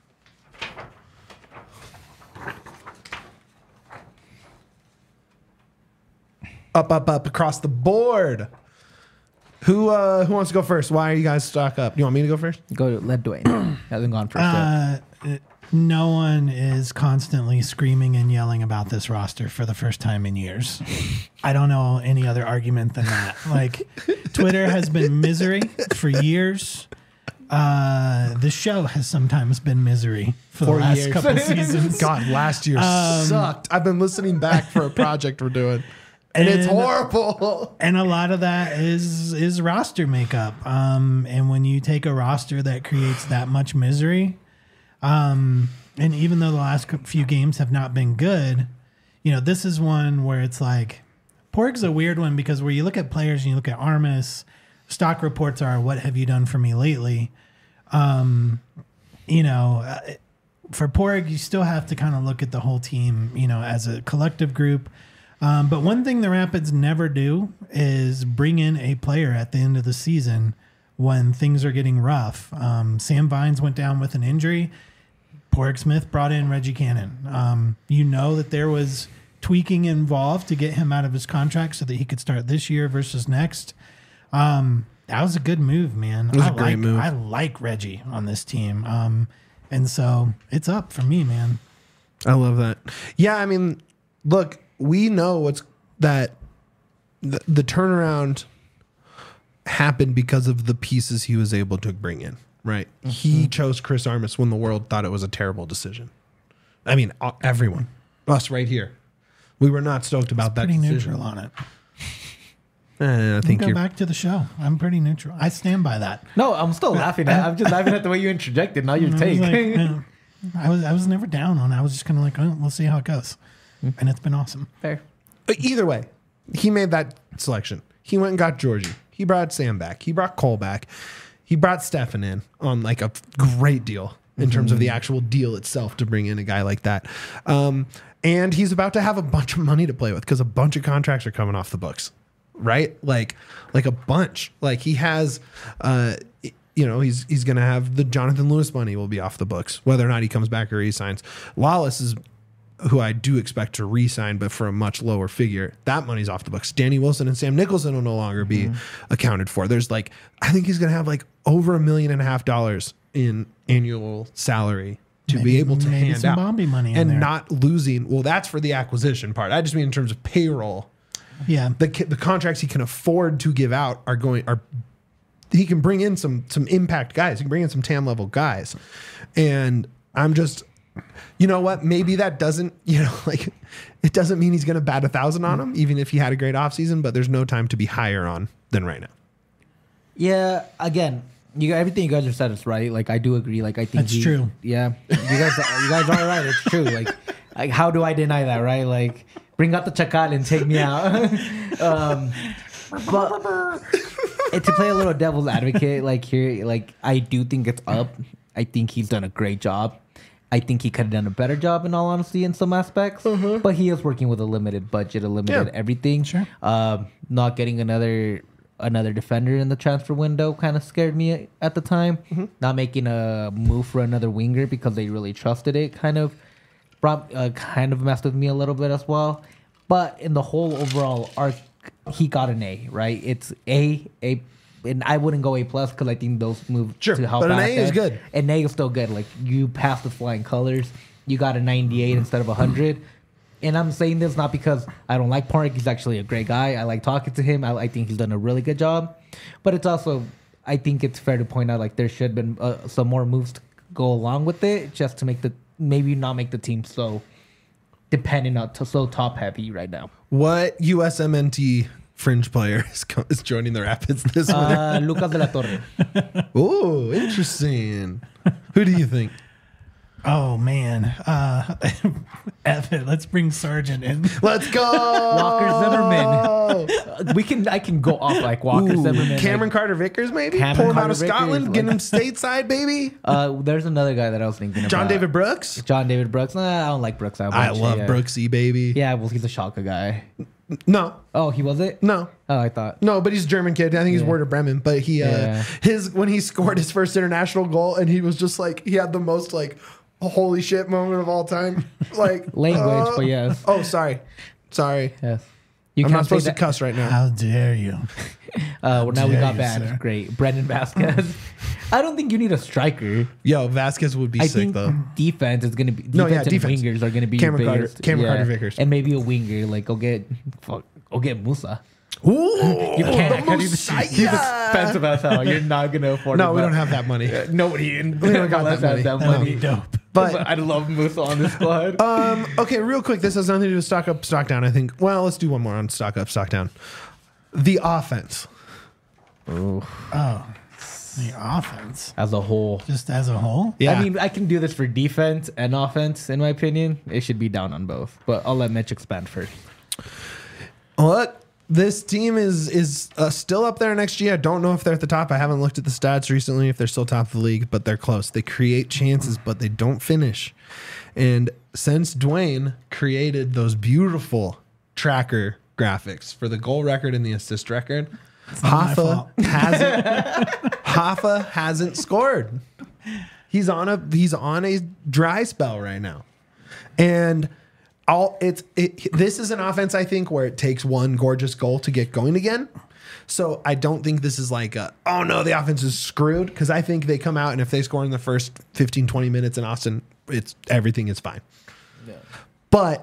Up, up, up across the board. Who uh, who wants to go first? Why are you guys stock up? You want me to go first? Go to let Dwayne. Hasn't gone first yet. Uh, no one is constantly screaming and yelling about this roster for the first time in years. I don't know any other argument than that. Like, Twitter has been misery for years. Uh, the show has sometimes been misery for the For last years. couple seasons. God, last year Um, sucked. I've been listening back for a project we're doing, and, it's And- horrible. And a lot of that is is roster makeup. Um, and when you take a roster that creates that much misery, um, and even though the last cou- few games have not been good, you know, this is one where it's like, Porg's a weird one because where you look at players and you look at Armis, stock reports are, what have you done for me lately? Um, you know, uh, for Porg, you still have to kind of look at the whole team, you know, as a collective group. Um, but one thing the Rapids never do is bring in a player at the end of the season when things are getting rough. Um, Sam Vines went down with an injury. Porg Smith brought in Reggie Cannon. Um, you know that there was tweaking involved to get him out of his contract so that he could start this year versus next. Um, that was a good move, man. It was I a great like, move. I like Reggie on this team. Um, and so it's up for me, man. I love that. Yeah, I mean, look, we know what's that the, the turnaround happened because of the pieces he was able to bring in, right? Mm-hmm. He chose Chris Armas when the world thought it was a terrible decision. I mean, uh, everyone, us right here, we were not stoked about that Pretty decision. neutral on it. Eh, I think Go you're back to the show. I'm pretty neutral. I stand by that. No, I'm still laughing at I'm just laughing at the way you interjected, not your I was, take. like, yeah. I was I was never down on it. I was just kind of like, oh, we'll see how it goes. and it's been awesome. Fair. But either way, he made that selection. He went and got Georgie. He brought Sam back. He brought Cole back. He brought Stefan in on like a great deal in mm-hmm. terms of the actual deal itself to bring in a guy like that. Um, and he's about to have a bunch of money to play with because a bunch of contracts are coming off the books, right? Like, like a bunch. Like he has, uh, you know, he's he's going to have the Jonathan Lewis money will be off the books, whether or not he comes back or resigns. Lawless is who I do expect to re-sign, but for a much lower figure. That money's off the books. Danny Wilson and Sam Nicholson will no longer be mm-hmm. accounted for. There's like, I think he's going to have like over a million and a half dollars in annual salary to maybe, be able to maybe hand some out Bombi money in and there. not losing. Well, that's for the acquisition part. I just mean in terms of payroll. Yeah, the the contracts he can afford to give out are going are. He can bring in some some impact guys. He can bring in some T A M level guys, and I'm just. You know what? Maybe that doesn't, you know, like it doesn't mean he's going to bat a thousand on him, even if he had a great offseason, but there's no time to be higher on than right now. Yeah. Again, you everything you guys have said is right. Like, I do agree. Like, I think that's he, true. Yeah. You guys, you guys are right. It's true. Like, like, how do I deny that? Right. Like, bring out the chacal and take me out. um, but and to play a little devil's advocate, like here, like I do think it's up. I think he's done a great job. I think he could have done a better job, in all honesty, in some aspects. Mm-hmm. But he is working with a limited budget, a limited yeah. everything. Sure. Uh, not getting another another defender in the transfer window kind of scared me at the time. Mm-hmm. Not making a move for another winger because they really trusted it kind of brought uh, kind of messed with me a little bit as well. But in the whole overall arc, he got an A, right? It's A, A. And I wouldn't go A plus because I think those move sure, to help. But an out A is good. An A is still good. Like you passed the flying colors. You got a ninety-eight instead of a hundred. And I'm saying this not because I don't like Park. He's actually a great guy. I like talking to him. I, I think he's done a really good job. But it's also, I think it's fair to point out like there should have been uh, some more moves to go along with it, just to make the maybe not make the team so dependent on to, so top heavy right now. What U S M N T fringe player is, co- is joining the Rapids this winter? Uh, Lucas de la Torre. Oh, interesting. Who do you think? Oh man, uh, Evan, let's bring Sargent in. Let's go, Walker Zimmerman. we can, I can go off like Walker Ooh, Zimmerman. Cameron like, Carter Vickers, maybe Cameron pull him Carter out of Vickers, Scotland, like, get him stateside, baby. Uh, there's another guy that I was thinking John about. David Brooks. John David Brooks. Nah, I don't like Brooks that much. I love yeah. Brooksy, baby. Yeah, well, he's a Schalke guy. No. Oh, he was it? No. Oh, I thought. No, but he's a German kid. I think he's Yeah. Werder Bremen. But he, uh, Yeah. his when he scored his first international goal, and he was just like he had the most like holy shit moment of all time. Like Language, uh, but yes. Oh, sorry, sorry. Yes. You I'm can't not supposed say to that. cuss right now. How dare you? Uh, well, now we dare got you, banned. sir. Great. Brendan Vasquez. I don't think you need a striker. Yo, Vasquez would be I sick think though. defense is going to be. Defense No, yeah, and defense. wingers are going to be Cameron your Carter- biggest. Cameron Carter Vickers. And maybe a winger. Like, go get. Fuck, go get Musa. Ooh, You can't. the He's, Messiah. he's expensive as hell. You're not going to afford it. No, we but- don't have that money. Nobody in We don't got MLS that has money. that That would money. be dope. But- But I love Musa on the squad. Um. Okay, real quick. This has nothing to do with stock up, stock down. I think. Well, let's do one more on stock up, stock down. The offense. Oh, the offense, As a whole. just as a whole. Yeah. I mean, I can do this for defense and offense, in my opinion. It should be down on both. But I'll let Mitch expand first. Look, this team is is uh, still up there next year. I don't know if they're at the top. I haven't looked at the stats recently if they're still top of the league, but they're close. They create chances, but they don't finish. And since Dwayne created those beautiful tracker graphics for the goal record and the assist record, not my Hoffa fault. hasn't Hoffa hasn't scored. He's on a he's on a dry spell right now. And all it's it, this is an offense, I think, where it takes one gorgeous goal to get going again. So I don't think this is like a, oh no, the offense is screwed, because I think they come out and if they score in the first fifteen, twenty minutes in Austin, it's everything is fine. Yeah. But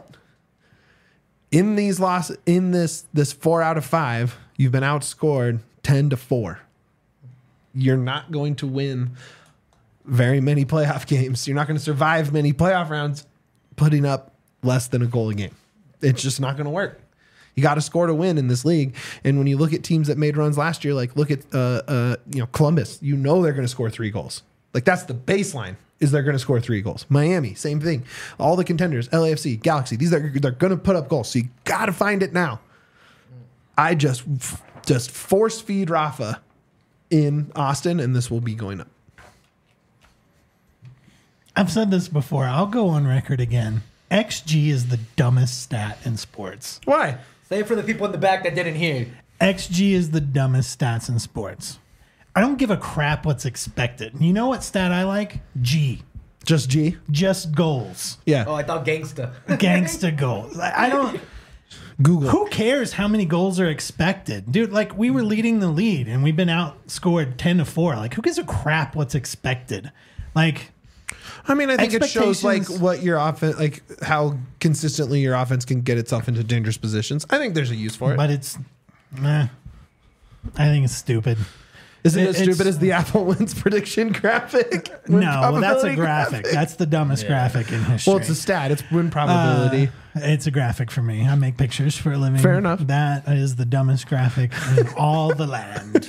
in these loss in this this four out of five, you've been outscored ten to four. You're not going to win very many playoff games. You're not going to survive many playoff rounds putting up less than a goal a game. It's just not going to work. You got to score to win in this league. And when you look at teams that made runs last year, like look at uh, uh, you know Columbus, you know they're going to score three goals. Like that's the baseline. is they're going to score three goals. Miami, same thing. All the contenders, L A F C, Galaxy, these are they're going to put up goals. So you got to find it now. I just just force feed Rafa in Austin, and this will be going up. I've said this before. I'll go on record again. X G is the dumbest stat in sports. Why? Say it for the people in the back that didn't hear. X G is the dumbest stats in sports. I don't give a crap what's expected. You know what stat I like? G. Just G? Just goals. Yeah. Oh, I thought gangsta. Gangsta goals. I I don't. Google. Who cares how many goals are expected? Dude, like we were leading the lead and we've been outscored ten to four. Like who gives a crap what's expected? Like I mean, I think it shows like expectations- what your offense, like how consistently your offense can get itself into dangerous positions. I think there's a use for it. but it's meh. I think it's stupid. Is it, it- as stupid it's- as the Apple wins prediction graphic? Win No, well, that's a probability graphic. That's the dumbest graphic in history. Well, it's a stat. It's win probability. Uh, it's a graphic for me. I make pictures for a living. Fair enough. That is the dumbest graphic in all the land.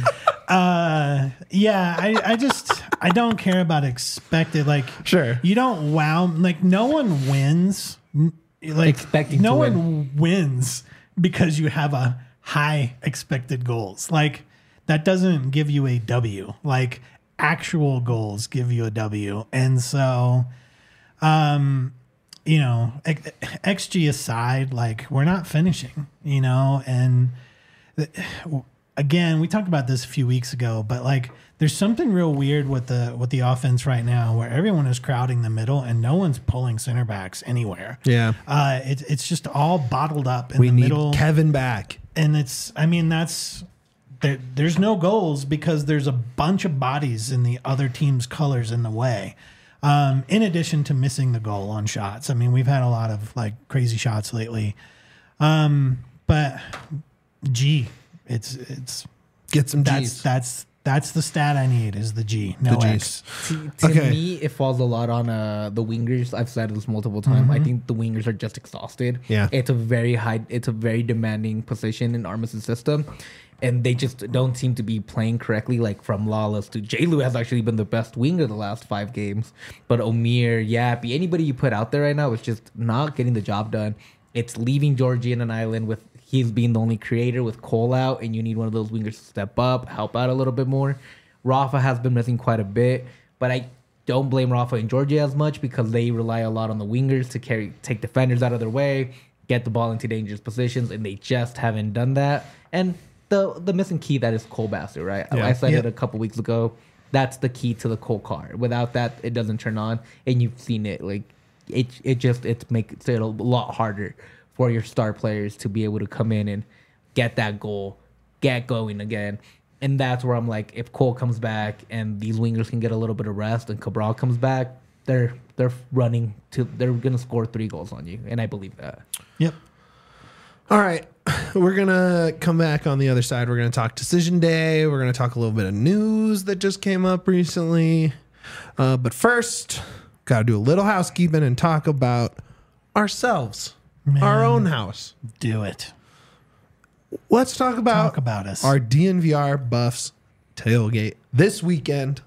uh, yeah, I, I just I don't care about expected. Like, Sure. you don't wow. Like, no one wins. n- Like, Expecting no to one wins because you have a high expected goals. Like, that doesn't give you a W. Like, actual goals give you a W, and so. Um, you know, X- XG aside, like we're not finishing, you know, and the, again, we talked about this a few weeks ago, but like there's something real weird with the with the offense right now where everyone is crowding the middle and no one's pulling center backs anywhere. Yeah. Uh, it's it's just all bottled up in We the need middle, Kevin back. and it's I mean that's there, there's no goals because there's a bunch of bodies in the other team's colors in the way. Um, in addition to missing the goal on shots. I mean, we've had a lot of like crazy shots lately. Um, but G, it's it's Get some that's G's. that's that's the stat I need is the G, no The X. G's. To, to Okay. me, it falls a lot on uh, the wingers. I've said this multiple times. I think the wingers are just exhausted. Yeah. It's a very high, it's a very demanding position in Armas' system. And they just don't seem to be playing correctly. Like from Lawless to J-Lu has actually been the best winger the last five games. But Omir, Yappy, anybody you put out there right now is just not getting the job done. It's leaving Georgie in an island with he's being the only creator with Cole out, and you need one of those wingers to step up, help out a little bit more. Rafa has been missing quite a bit, but I don't blame Rafa and Georgie as much because they rely a lot on the wingers to carry take defenders out of their way, get the ball into dangerous positions, and they just haven't done that. And the the missing key that is Cole Bassett, right? Yeah. I said Yep. it a couple weeks ago. That's the key to the Cole car. Without that, it doesn't turn on, and you've seen it. Like it, it just it makes it a lot harder for your star players to be able to come in and get that goal, get going again. And that's where I'm like, if Cole comes back and these wingers can get a little bit of rest, and Cabral comes back, they're they're running to they're gonna score three goals on you, and I believe that. Yep. All right. We're going to come back on the other side. We're going to talk Decision Day. We're going to talk a little bit of news that just came up recently. Uh, but first, got to do a little housekeeping and talk about ourselves, Man. our own house. Do it. Let's talk about, Talk about us. our D N V R Buffs tailgate this weekend.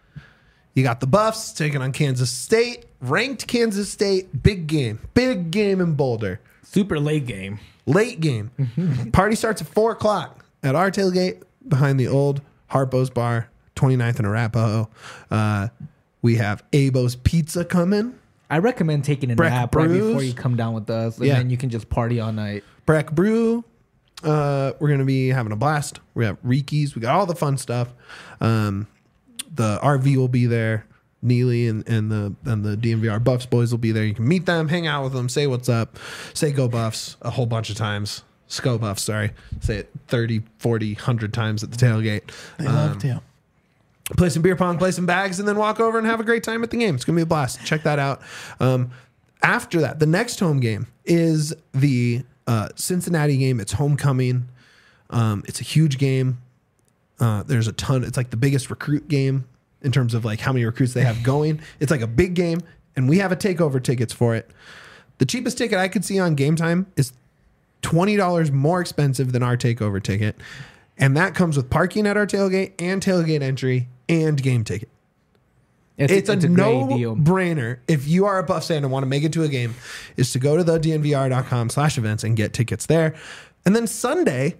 You got the Buffs taking on Kansas State, ranked Kansas State, big game, big game in Boulder. Super late game. Late game. Party starts at four o'clock at our tailgate behind the old Harpo's Bar, twenty-ninth and Arapahoe. Uh, we have Abo's Pizza coming. I recommend taking a Breck nap right Brews. before you come down with us, and Yeah. then you can just party all night. Breck Brew. Uh, we're going to be having a blast. We have Riki's. We got all the fun stuff. Um, the R V will be there. Neely and, and the and the D N V R Buffs boys will be there. You can meet them, hang out with them, say what's up, say go Buffs a whole bunch of times. Sco Buffs, sorry. Say it thirty, forty, one hundred times at the tailgate. They Um, love to. play some beer pong, play some bags, and then walk over and have a great time at the game. It's going to be a blast. Check that out. Um, after that, the next home game is the uh, Cincinnati game. It's homecoming. Um, it's a huge game. Uh, there's a ton. It's like the biggest recruit game in terms of like how many recruits they have going. It's like a big game, and we have a takeover tickets for it. The cheapest ticket I could see on Game Time is twenty dollars more expensive than our takeover ticket. And that comes with parking at our tailgate and tailgate entry and game ticket. It's, It's, it's a, a great deal. no-brainer if you are a Buffs fan and want to make it to a game, is to go to the D N V R dot com slash events and get tickets there. And then Sunday,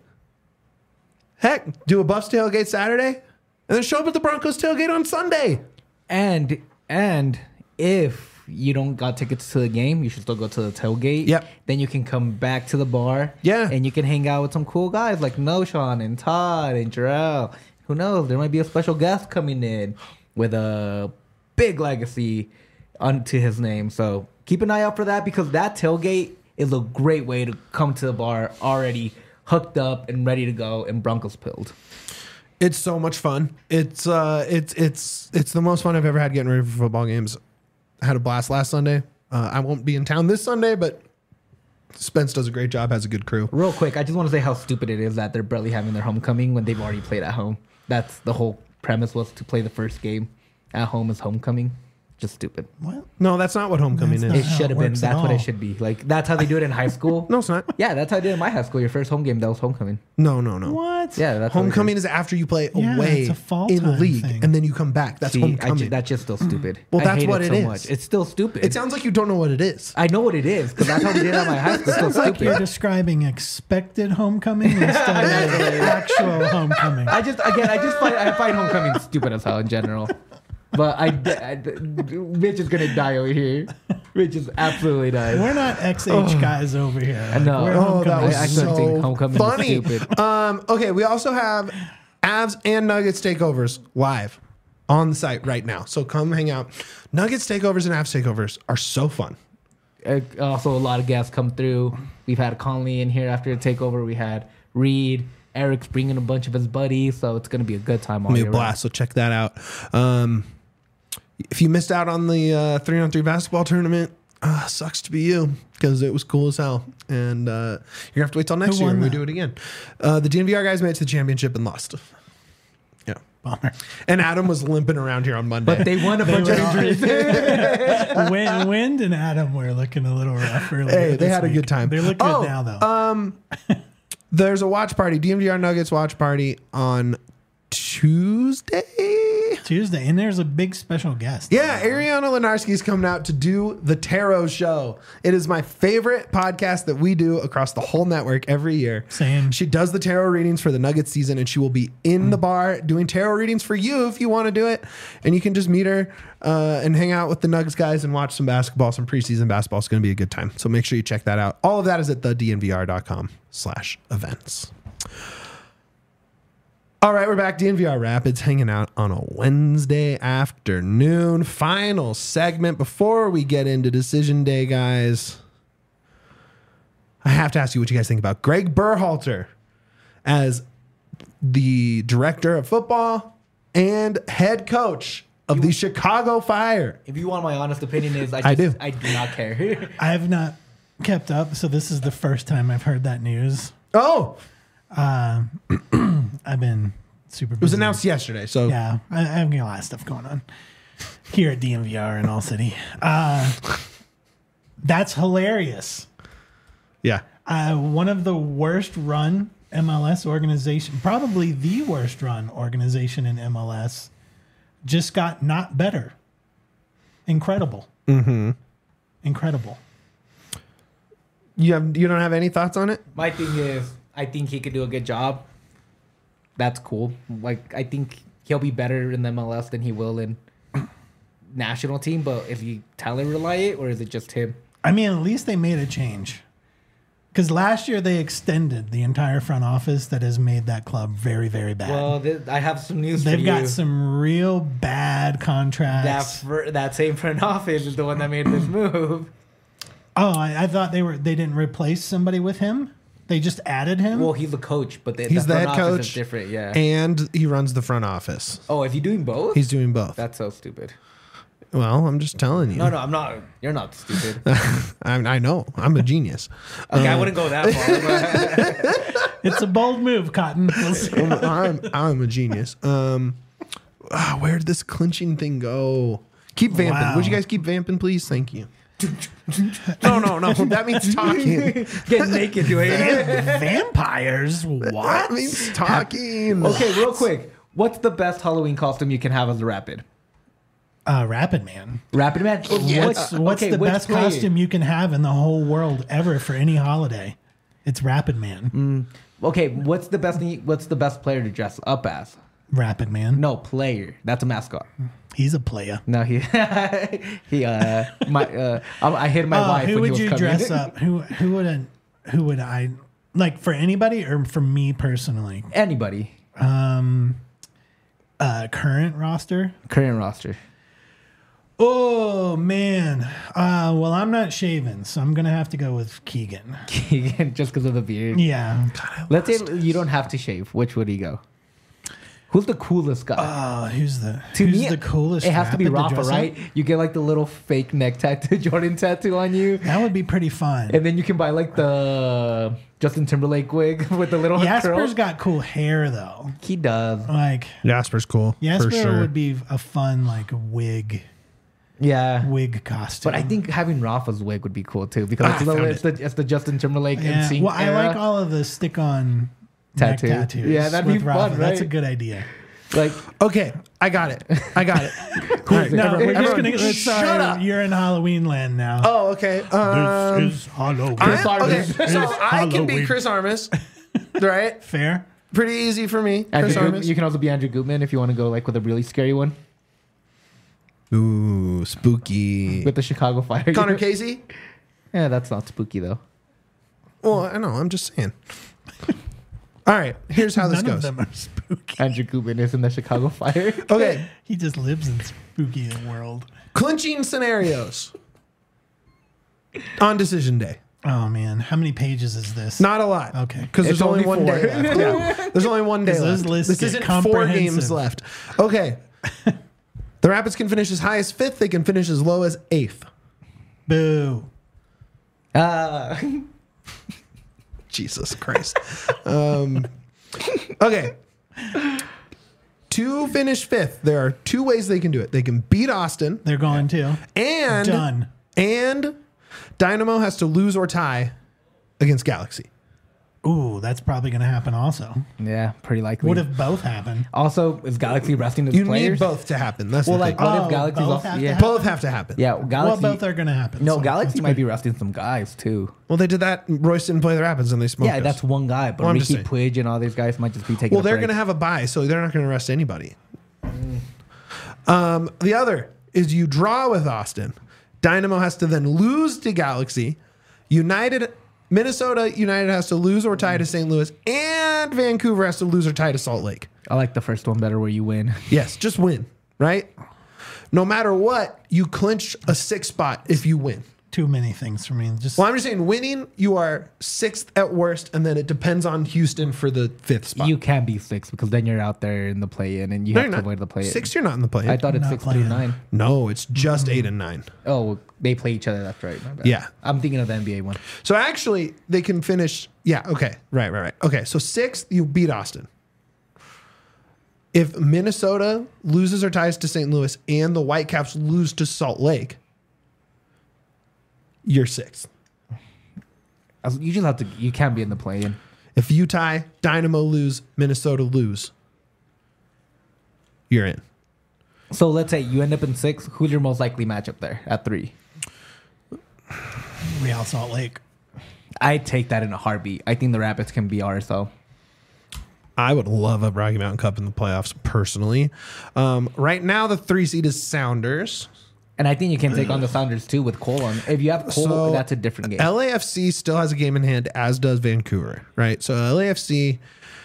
heck, do a Buffs tailgate Saturday, and then show up at the Broncos tailgate on Sunday. And and if you don't got tickets to the game, you should still go to the tailgate. Yep. Then you can come back to the bar. Yeah. And you can hang out with some cool guys like Noshawn and Todd and Jarrell. Who knows? There might be a special guest coming in with a big legacy onto his name. So keep an eye out for that, because that tailgate is a great way to come to the bar already hooked up and ready to go and Broncos pilled. It's so much fun. It's uh, it's it's it's the most fun I've ever had getting ready for football games. I had a blast last Sunday. Uh, I won't be in town this Sunday, but Spence does a great job. Has a good crew. Real quick, I just want to say how stupid it is that they're barely having their homecoming when they've already played at home. That's the whole premise, was to play the first game at home as homecoming. Just stupid. What? No, that's not what homecoming That's is. It how should it have been. works at That's what it all. should be. Like, that's how they do it in high school. No, it's not. Yeah, that's how I did it in my high school. Your first home game, that was homecoming. No, no, no. What? Yeah, that's what we Homecoming did. is after you play Yeah, away it's a fall in the time league, thing. and then you come back. That's See, I homecoming. ju- that's just still stupid. Well, I that's hate what it it so is. much. It's still stupid. It sounds like you don't know what it is. I know what it is, because that's how we did it at my high school. It's still It's like you're stupid. describing expected homecoming instead of actual homecoming. I just, again, I just find, I find homecoming stupid as hell in general. But I, I, Mitch is gonna die over here. Mitch is absolutely dying. We're not X H guys over here. Like, know. we're Oh, that homecoming. was I- I couldn't think so homecoming is funny. stupid. Um, okay, we also have Avs and Nuggets takeovers live on the site right now. So come hang out. Nuggets takeovers and Avs takeovers are so fun. Uh, also, a lot of guests come through. We've had Conley in here after the takeover. We had Reed. Eric's bringing a bunch of his buddies, so it's gonna be a good time all Be a year blast. So check that out. Um, if you missed out on the uh, three on three basketball tournament, uh, sucks to be you, because it was cool as hell. And uh, you're gonna have to wait till next Who year won when we that? do it again. Uh, the D N V R guys made it to the championship and lost. Yeah. Bummer. And Adam was limping around here on Monday. But they won a bunch were of all- injuries. Wind, Wind and Adam were looking a little rough earlier. Hey, they this had a week. good time. They look Oh, good now, though. Um, there's a watch party, D M V R Nuggets watch party on Tuesday. Tuesday, and there's a big special guest. Yeah, Ariana Lenarski is coming out to do the Tarot Show. It is my favorite podcast that we do across the whole network every year. Same. She does the tarot readings for the Nuggets season, and she will be in the bar doing tarot readings for you if you want to do it. And you can just meet her uh, and hang out with the Nuggets guys and watch some basketball, some preseason basketball. It's going to be a good time. So make sure you check that out. All of that is at the D N V R dot com slash events. All right, we're back. D N V R Rapids hanging out on a Wednesday afternoon. Final segment before we get into decision day, guys. I have to ask you what you guys think about Greg Berhalter as the director of football and head coach of the Chicago Fire. If you want my honest opinion, is I, just, I do. I do not care. I have not kept up, so this is the first time I've heard that news. Oh, I've been super busy. it was announced yesterday. So Yeah, I, I've got a lot of stuff going on here at D M V R in All City. Uh, that's hilarious. yeah. Uh, one of the worst run M L S organization, probably the worst run organization in M L S, just got not better. Incredible. Mm-hmm. Incredible. You have you don't have any thoughts on it? My thing is, I think he could do a good job. That's cool. Like, I think he'll be better in the M L S than he will in national team. But is he talent reliant, or is it just him? I mean, at least they made a change. Because last year they extended the entire front office that has made that club very, very bad. Well, th- I have some news They've for got you. some real bad that contracts. fir- that same front office is the one that made this move. Oh, I, I thought they were they didn't replace somebody with him. They just added him. Well, he's the coach, but the, He's the the front head office coach is different. Yeah. and he runs the front office. Oh, is he doing both? He's doing both. That's so stupid. Well, I'm just telling you. No, no, I'm not. You're not stupid. I, I know. I'm a genius. Okay, I wouldn't go that far. But It's a bold move, Cotton. We'll see. I'm, I'm, I'm a genius. Um, ah, where did this clinching thing go? Keep vamping. Wow. Would you guys keep vamping, please? Thank you. no, no, no. That means talking. get naked doing it. Vampires? That What? means talking. Okay, real quick. What's the best Halloween costume you can have as a Rapid? Uh, Rapid Man. Rapid Man. What's what's okay, the which best player? costume you can have in the whole world ever for any holiday? It's Rapid Man. Mm. Okay, what's the best? What's the best player to dress up as? Rapid Man. No, player. That's a mascot. He's a player. No, he he. Uh, my uh, I, I hit my Uh, wife. who when would he you was coming. dress up? Who who would I, who would I like for anybody or for me personally? Anybody. Um, uh, current roster. Current roster. Oh man. Uh, well, I'm not shaven, so I'm gonna have to go with Keegan. Keegan, just because of the beard. Yeah. Let's say you don't have to shave. Which would he go? Who's the coolest guy? Oh, who's the to who's me, the coolest? It has to be rapid Rafa, dress up? right? You get like the little fake neck tattoo, Jordan tattoo on you, That would be pretty fun. and then you can buy like the Justin Timberlake wig with the little Jasper's curls. got cool hair though. He does. Like Jasper's cool. Jasper for sure. would be a fun like wig Yeah. wig costume. But I think having Rafa's wig would be cool too because Ah, it's, I the, found it's, the, it's the Justin Timberlake yeah. and sync Well, I era. like all of the stick on Tattoo. neck tattoos. Yeah, that'd be with Rafa. fun, That's a right? good idea. Like Okay, I got it. I got it. All right, No, everyone- we're just everyone gonna. Let's, shut sorry, up. you're in Halloween land now. Oh, okay. Um, this is Halloween. I- Chris okay, Armas. so It's I can be Halloween. Chris Armas, right? Fair. Pretty easy for me. Andrew Chris Goodman, Armas. you can also be Andrew Goodman if you want to go like with a really scary one Ooh, spooky. with the Chicago Fire. Connor Casey. Yeah, that's not spooky though. Well, I know. I'm just saying. All right. Here's how this None of goes. them are spooky. Andrew Goodman is in the Chicago Fire. Okay. He just lives in spooky world. Clinching scenarios on decision day. Oh man, how many pages is this? Not a lot. Okay. Because there's It's only, only one four. day left. Yeah. There's only one day 'Cause those left. lists This get isn't four comprehensive. games left. Okay. The Rapids can finish as high as fifth. They can finish as low as eighth. Boo. Uh, Jesus Christ. um, okay. To finish fifth, there are two ways they can do it. They can beat Austin, They're going too. and Done. and Dynamo has to lose or tie against Galaxy. Ooh, that's probably going to happen also. yeah, pretty likely. What if both happen? also is Galaxy resting its You players? need both to happen. That's Well, the like thing. what Oh, if Galaxy's both off? have to Yeah, happen? Both have to happen. yeah. Well, Galaxy. both are going to happen. no, so Galaxy that's might good. be resting some guys too. Well, they did that. Royce didn't play the Rapids, and they smoked Yeah, us. that's one guy, but Well, I'm just Ricky saying. Puig and all these guys might just be taking. Well, a they're break. going to have a bye, so they're not going to rest anybody. Um, the other is you draw with Austin. Dynamo has to then lose to Galaxy. United, Minnesota United has to lose or tie to Saint Louis, and Vancouver has to lose or tie to Salt Lake. I like the first one better, where you win. Yes, just win, right? No matter what, you clinch a sixth spot if you win. Too many things for me. Just Well, I'm just saying, winning, you are sixth at worst, and then it depends on Houston for the fifth spot. You can't be six because then you're out there in the play-in, and you No, have you're to not. avoid the play-in. Six, you're not in the play. I thought it's Not six through play-in. nine. No, it's just eight and nine. Oh, they play each other. That's right. My bad. Yeah. I'm thinking of the N B A one. So actually, they can finish. Yeah. Okay. Right. Right. Right. Okay. So sixth, you beat Austin. If Minnesota loses or ties to Saint Louis and the Whitecaps lose to Salt Lake, you're sixth. As- You just have to. You can't be in the play-in. If you tie, Dynamo lose, Minnesota lose, you're in. So let's say you end up in six. Who's your most likely matchup there at three? Real Salt Lake. I take that in a heartbeat. I think the Rapids can be R S L. I would love a Rocky Mountain Cup in the playoffs personally. Um, right now, the three seed is Sounders. And I think you can take on the Sounders too with Cole on. If you have Cole, So, that's a different game. L A F C still has a game in hand, as does Vancouver, right? So L A F C,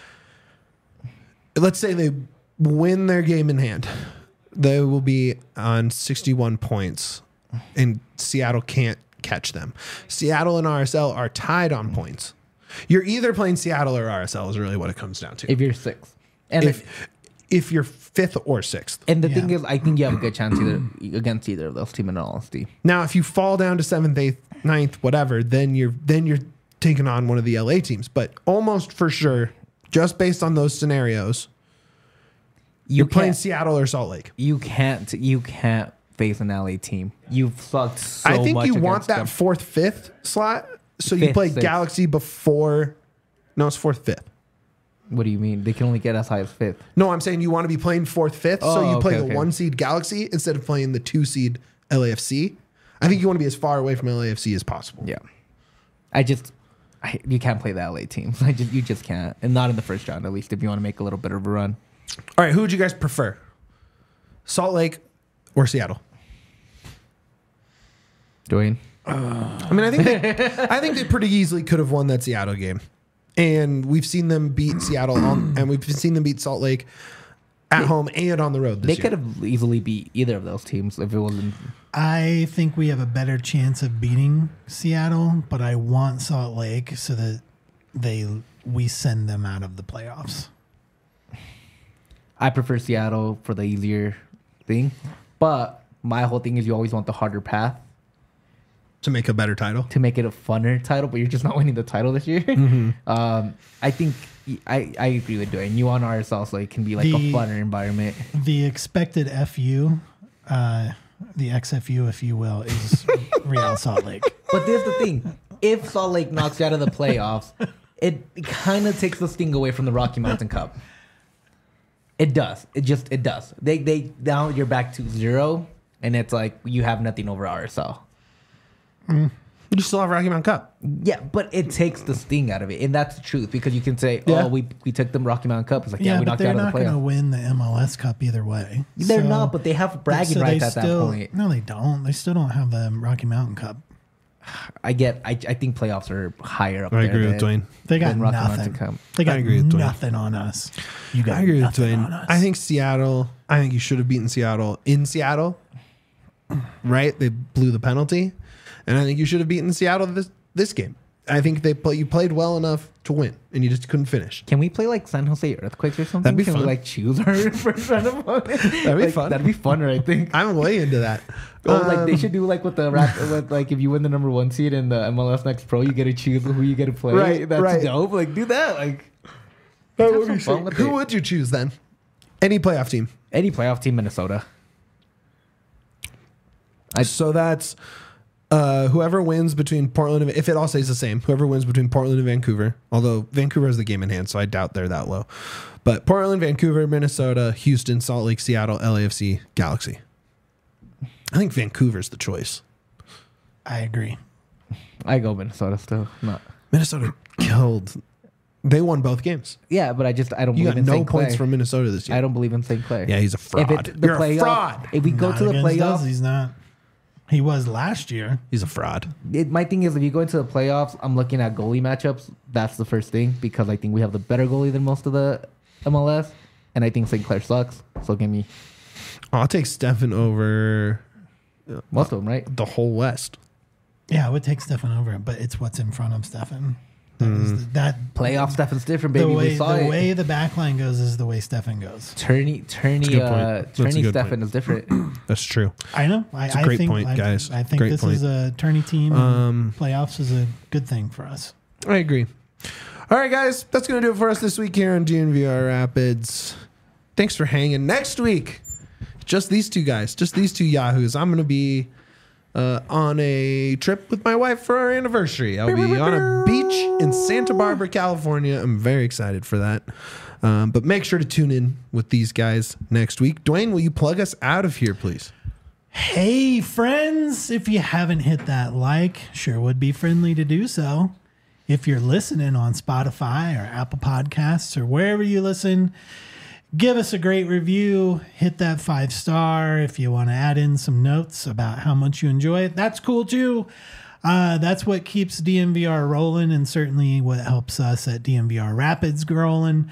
let's say they win their game in hand, they will be on sixty-one points, and Seattle can't catch them. Seattle and R S L are tied on points. You're either playing Seattle or R S L is really what it comes down to. if you're six, and If if you're fifth or sixth. and the Yeah. thing is, I think you have a good chance either against either of those teams. In all honesty, Now, if you fall down to seventh, eighth, ninth, whatever, then you're then you're taking on one of the L A teams. But almost for sure, just based on those scenarios, you you're playing can't- Seattle or Salt Lake. You can't. You can't face an L A team. You've sucked so I think much you want against that them. fourth, fifth slot. So you Fifth, play sixth. Galaxy before. No, it's fourth, fifth. What do you mean? They can only get as high as fifth. No, I'm saying you want to be playing fourth, fifth, so Oh, you play okay, the okay. one seed Galaxy instead of playing the two seed L A F C. I think you want to be as far away from L A F C as possible. Yeah. I just, I, you can't play the L A teams. I just, you just can't, and not in the first round at least. If you want to make a little bit of a run. All right, who would you guys prefer? Salt Lake or Seattle? Dwayne. I mean, I think they, I think they pretty easily could have won that Seattle game, and we've seen them beat Seattle, on, and we've seen them beat Salt Lake at They- home and on the road. They This could year. have easily beat either of those teams if it wasn't. I think we have a better chance of beating Seattle, but I want Salt Lake so that they we send them out of the playoffs. I prefer Seattle for the easier thing, but my whole thing is you always want the harder path to make a better title. to make it a funner title, but you're just not winning the title this year. Mm-hmm. Um, I think I, I agree with Dwayne. You want R S L so it can be like a The- funner environment. The expected F U, uh, the X F U, if you will, is Real Salt Lake. But there's the thing: if Salt Lake knocks you out of the playoffs, it kind of takes the sting away from the Rocky Mountain Cup. It does. It just it does. They they now you're back to zero, and it's like you have nothing over R S L. You still have Rocky Mountain Cup. Yeah, but it takes the sting out of it, and that's the truth because you can say, Yeah. "Oh, we we took them Rocky Mountain Cup." It's like, yeah, Yeah, we but knocked you they're out of not the going to playoffs. win the M L S Cup either way. They're So- not, but they have bragging so rights they at still, that point. No, they don't. They still don't have the Rocky Mountain Cup. I get. I I think playoffs are higher up I there. agree with than- Dwayne. They got than Rocky nothing. Mountain Cup. They got I agree with Dwayne. nothing on us. You got I agree with nothing Dwayne. on us. I think Seattle. I think you should have beaten Seattle in Seattle. Right? They blew the penalty, and I think you should have beaten Seattle this this game. I think they play. You played well enough to win, and you just couldn't finish. Can we play like San Jose Earthquakes or something? That'd be Can fun. we like choose our first round opponent? That'd be like, fun. That'd be funner, I think. I'm way into that. Oh, like they Um, should do like with the rap, with like if you win the number one seed in the M L S Next Pro, you get to choose who you get to play. Right, That's right. dope. Like do that. Like that have would some be fun sweet. with Who it. would you choose then? Any playoff team. any playoff team, Minnesota. I- so that's uh, whoever wins between Portland and if it all stays the same, whoever wins between Portland and Vancouver, although Vancouver has the game in hand, so I doubt they're that low. But Portland, Vancouver, Minnesota, Houston, Salt Lake, Seattle, L A F C, Galaxy. I think Vancouver's the choice. I agree. I go Minnesota still. Not. Minnesota killed. They won both games. Yeah, but I just I don't You believe got in no Saint points Clair. from Minnesota this year. I don't believe in Saint Clair. Yeah, he's a fraud. If it's the You're a playoff, fraud. if we go Not to the against us, playoffs, he's not. He was last year. He's a fraud. it, my thing is if you go into the playoffs, I'm looking at goalie matchups. That's the first thing because I think we have the better goalie than most of the M L S, and I think Saint Clair sucks. So give me I'll take Stefan over most of them, right? the whole West. Yeah, I would take Stefan over it, but it's what's in front of Stefan. That is the, that Playoff stuff is different, the baby. way we saw the it. way the back line goes is the way Stefan goes. Tourney, That's a tourney, good point. uh, That's a tourney good Stefan point. is different. That's true. I know. I, It's a I great think, point, I, guys. I think Great this point. is a tourney team. and Um, playoffs is a good thing for us. I agree. All right, guys, that's going to do it for us this week here on D N V R Rapids. Thanks for hanging. Next week, just these two guys, just these two yahoos. I'm going to be uh, on a trip with my wife for our anniversary. I'll be on a beach in Santa Barbara, California. I'm very excited for that. Um, but make sure to tune in with these guys next week. Dwayne, will you plug us out of here, please? Hey, friends, if you haven't hit that like, sure would be friendly to do so. If you're listening on Spotify or Apple Podcasts or wherever you listen, give us a great review. Hit that five star. If you want to add in some notes about how much you enjoy it, that's cool too. Uh, that's what keeps D M V R rolling and certainly what helps us at D M V R Rapids rolling.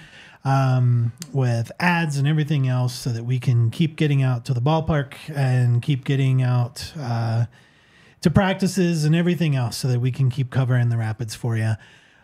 Um, with ads and everything else so that we can keep getting out to the ballpark and keep getting out uh, to practices and everything else so that we can keep covering the Rapids for you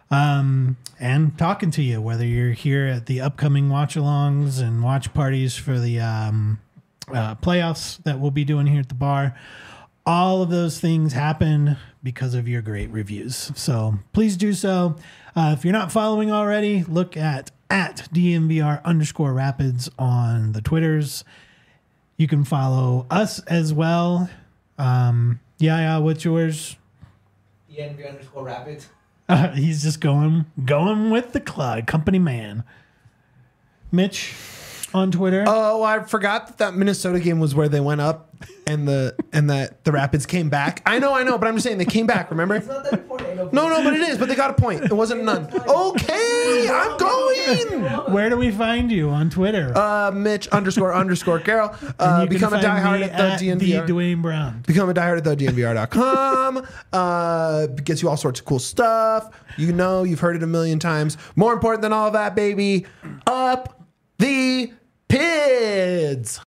um, and talking to you, whether you're here at the upcoming watch-alongs and watch parties for the um, uh, playoffs that we'll be doing here at the bar. All of those things happen because of your great reviews. So please do so. Uh, if you're not following already, look at at D M V R underscore Rapids on the Twitters. You can follow us as well. Um, yeah, yeah, what's yours? D N V underscore Rapids. Uh, he's just going going with the club, company man. Mitch on Twitter. Oh, I forgot that that Minnesota game was where they went up and the and that the Rapids came back. I know, I know, but I'm just saying they came back. Remember? It's not that important. No, no, but it is. But they got a point. It wasn't none. Okay, I'm going. Where do we find you on Twitter? Uh, Mitch underscore underscore Carroll. And Uh, you can become a find diehard me at the D N V R. the Dwayne Brown. Become a diehard at the D N V R dot com. Uh, gets you all sorts of cool stuff. You know, you've heard it a million times. More important than all of that, baby, up the Pids.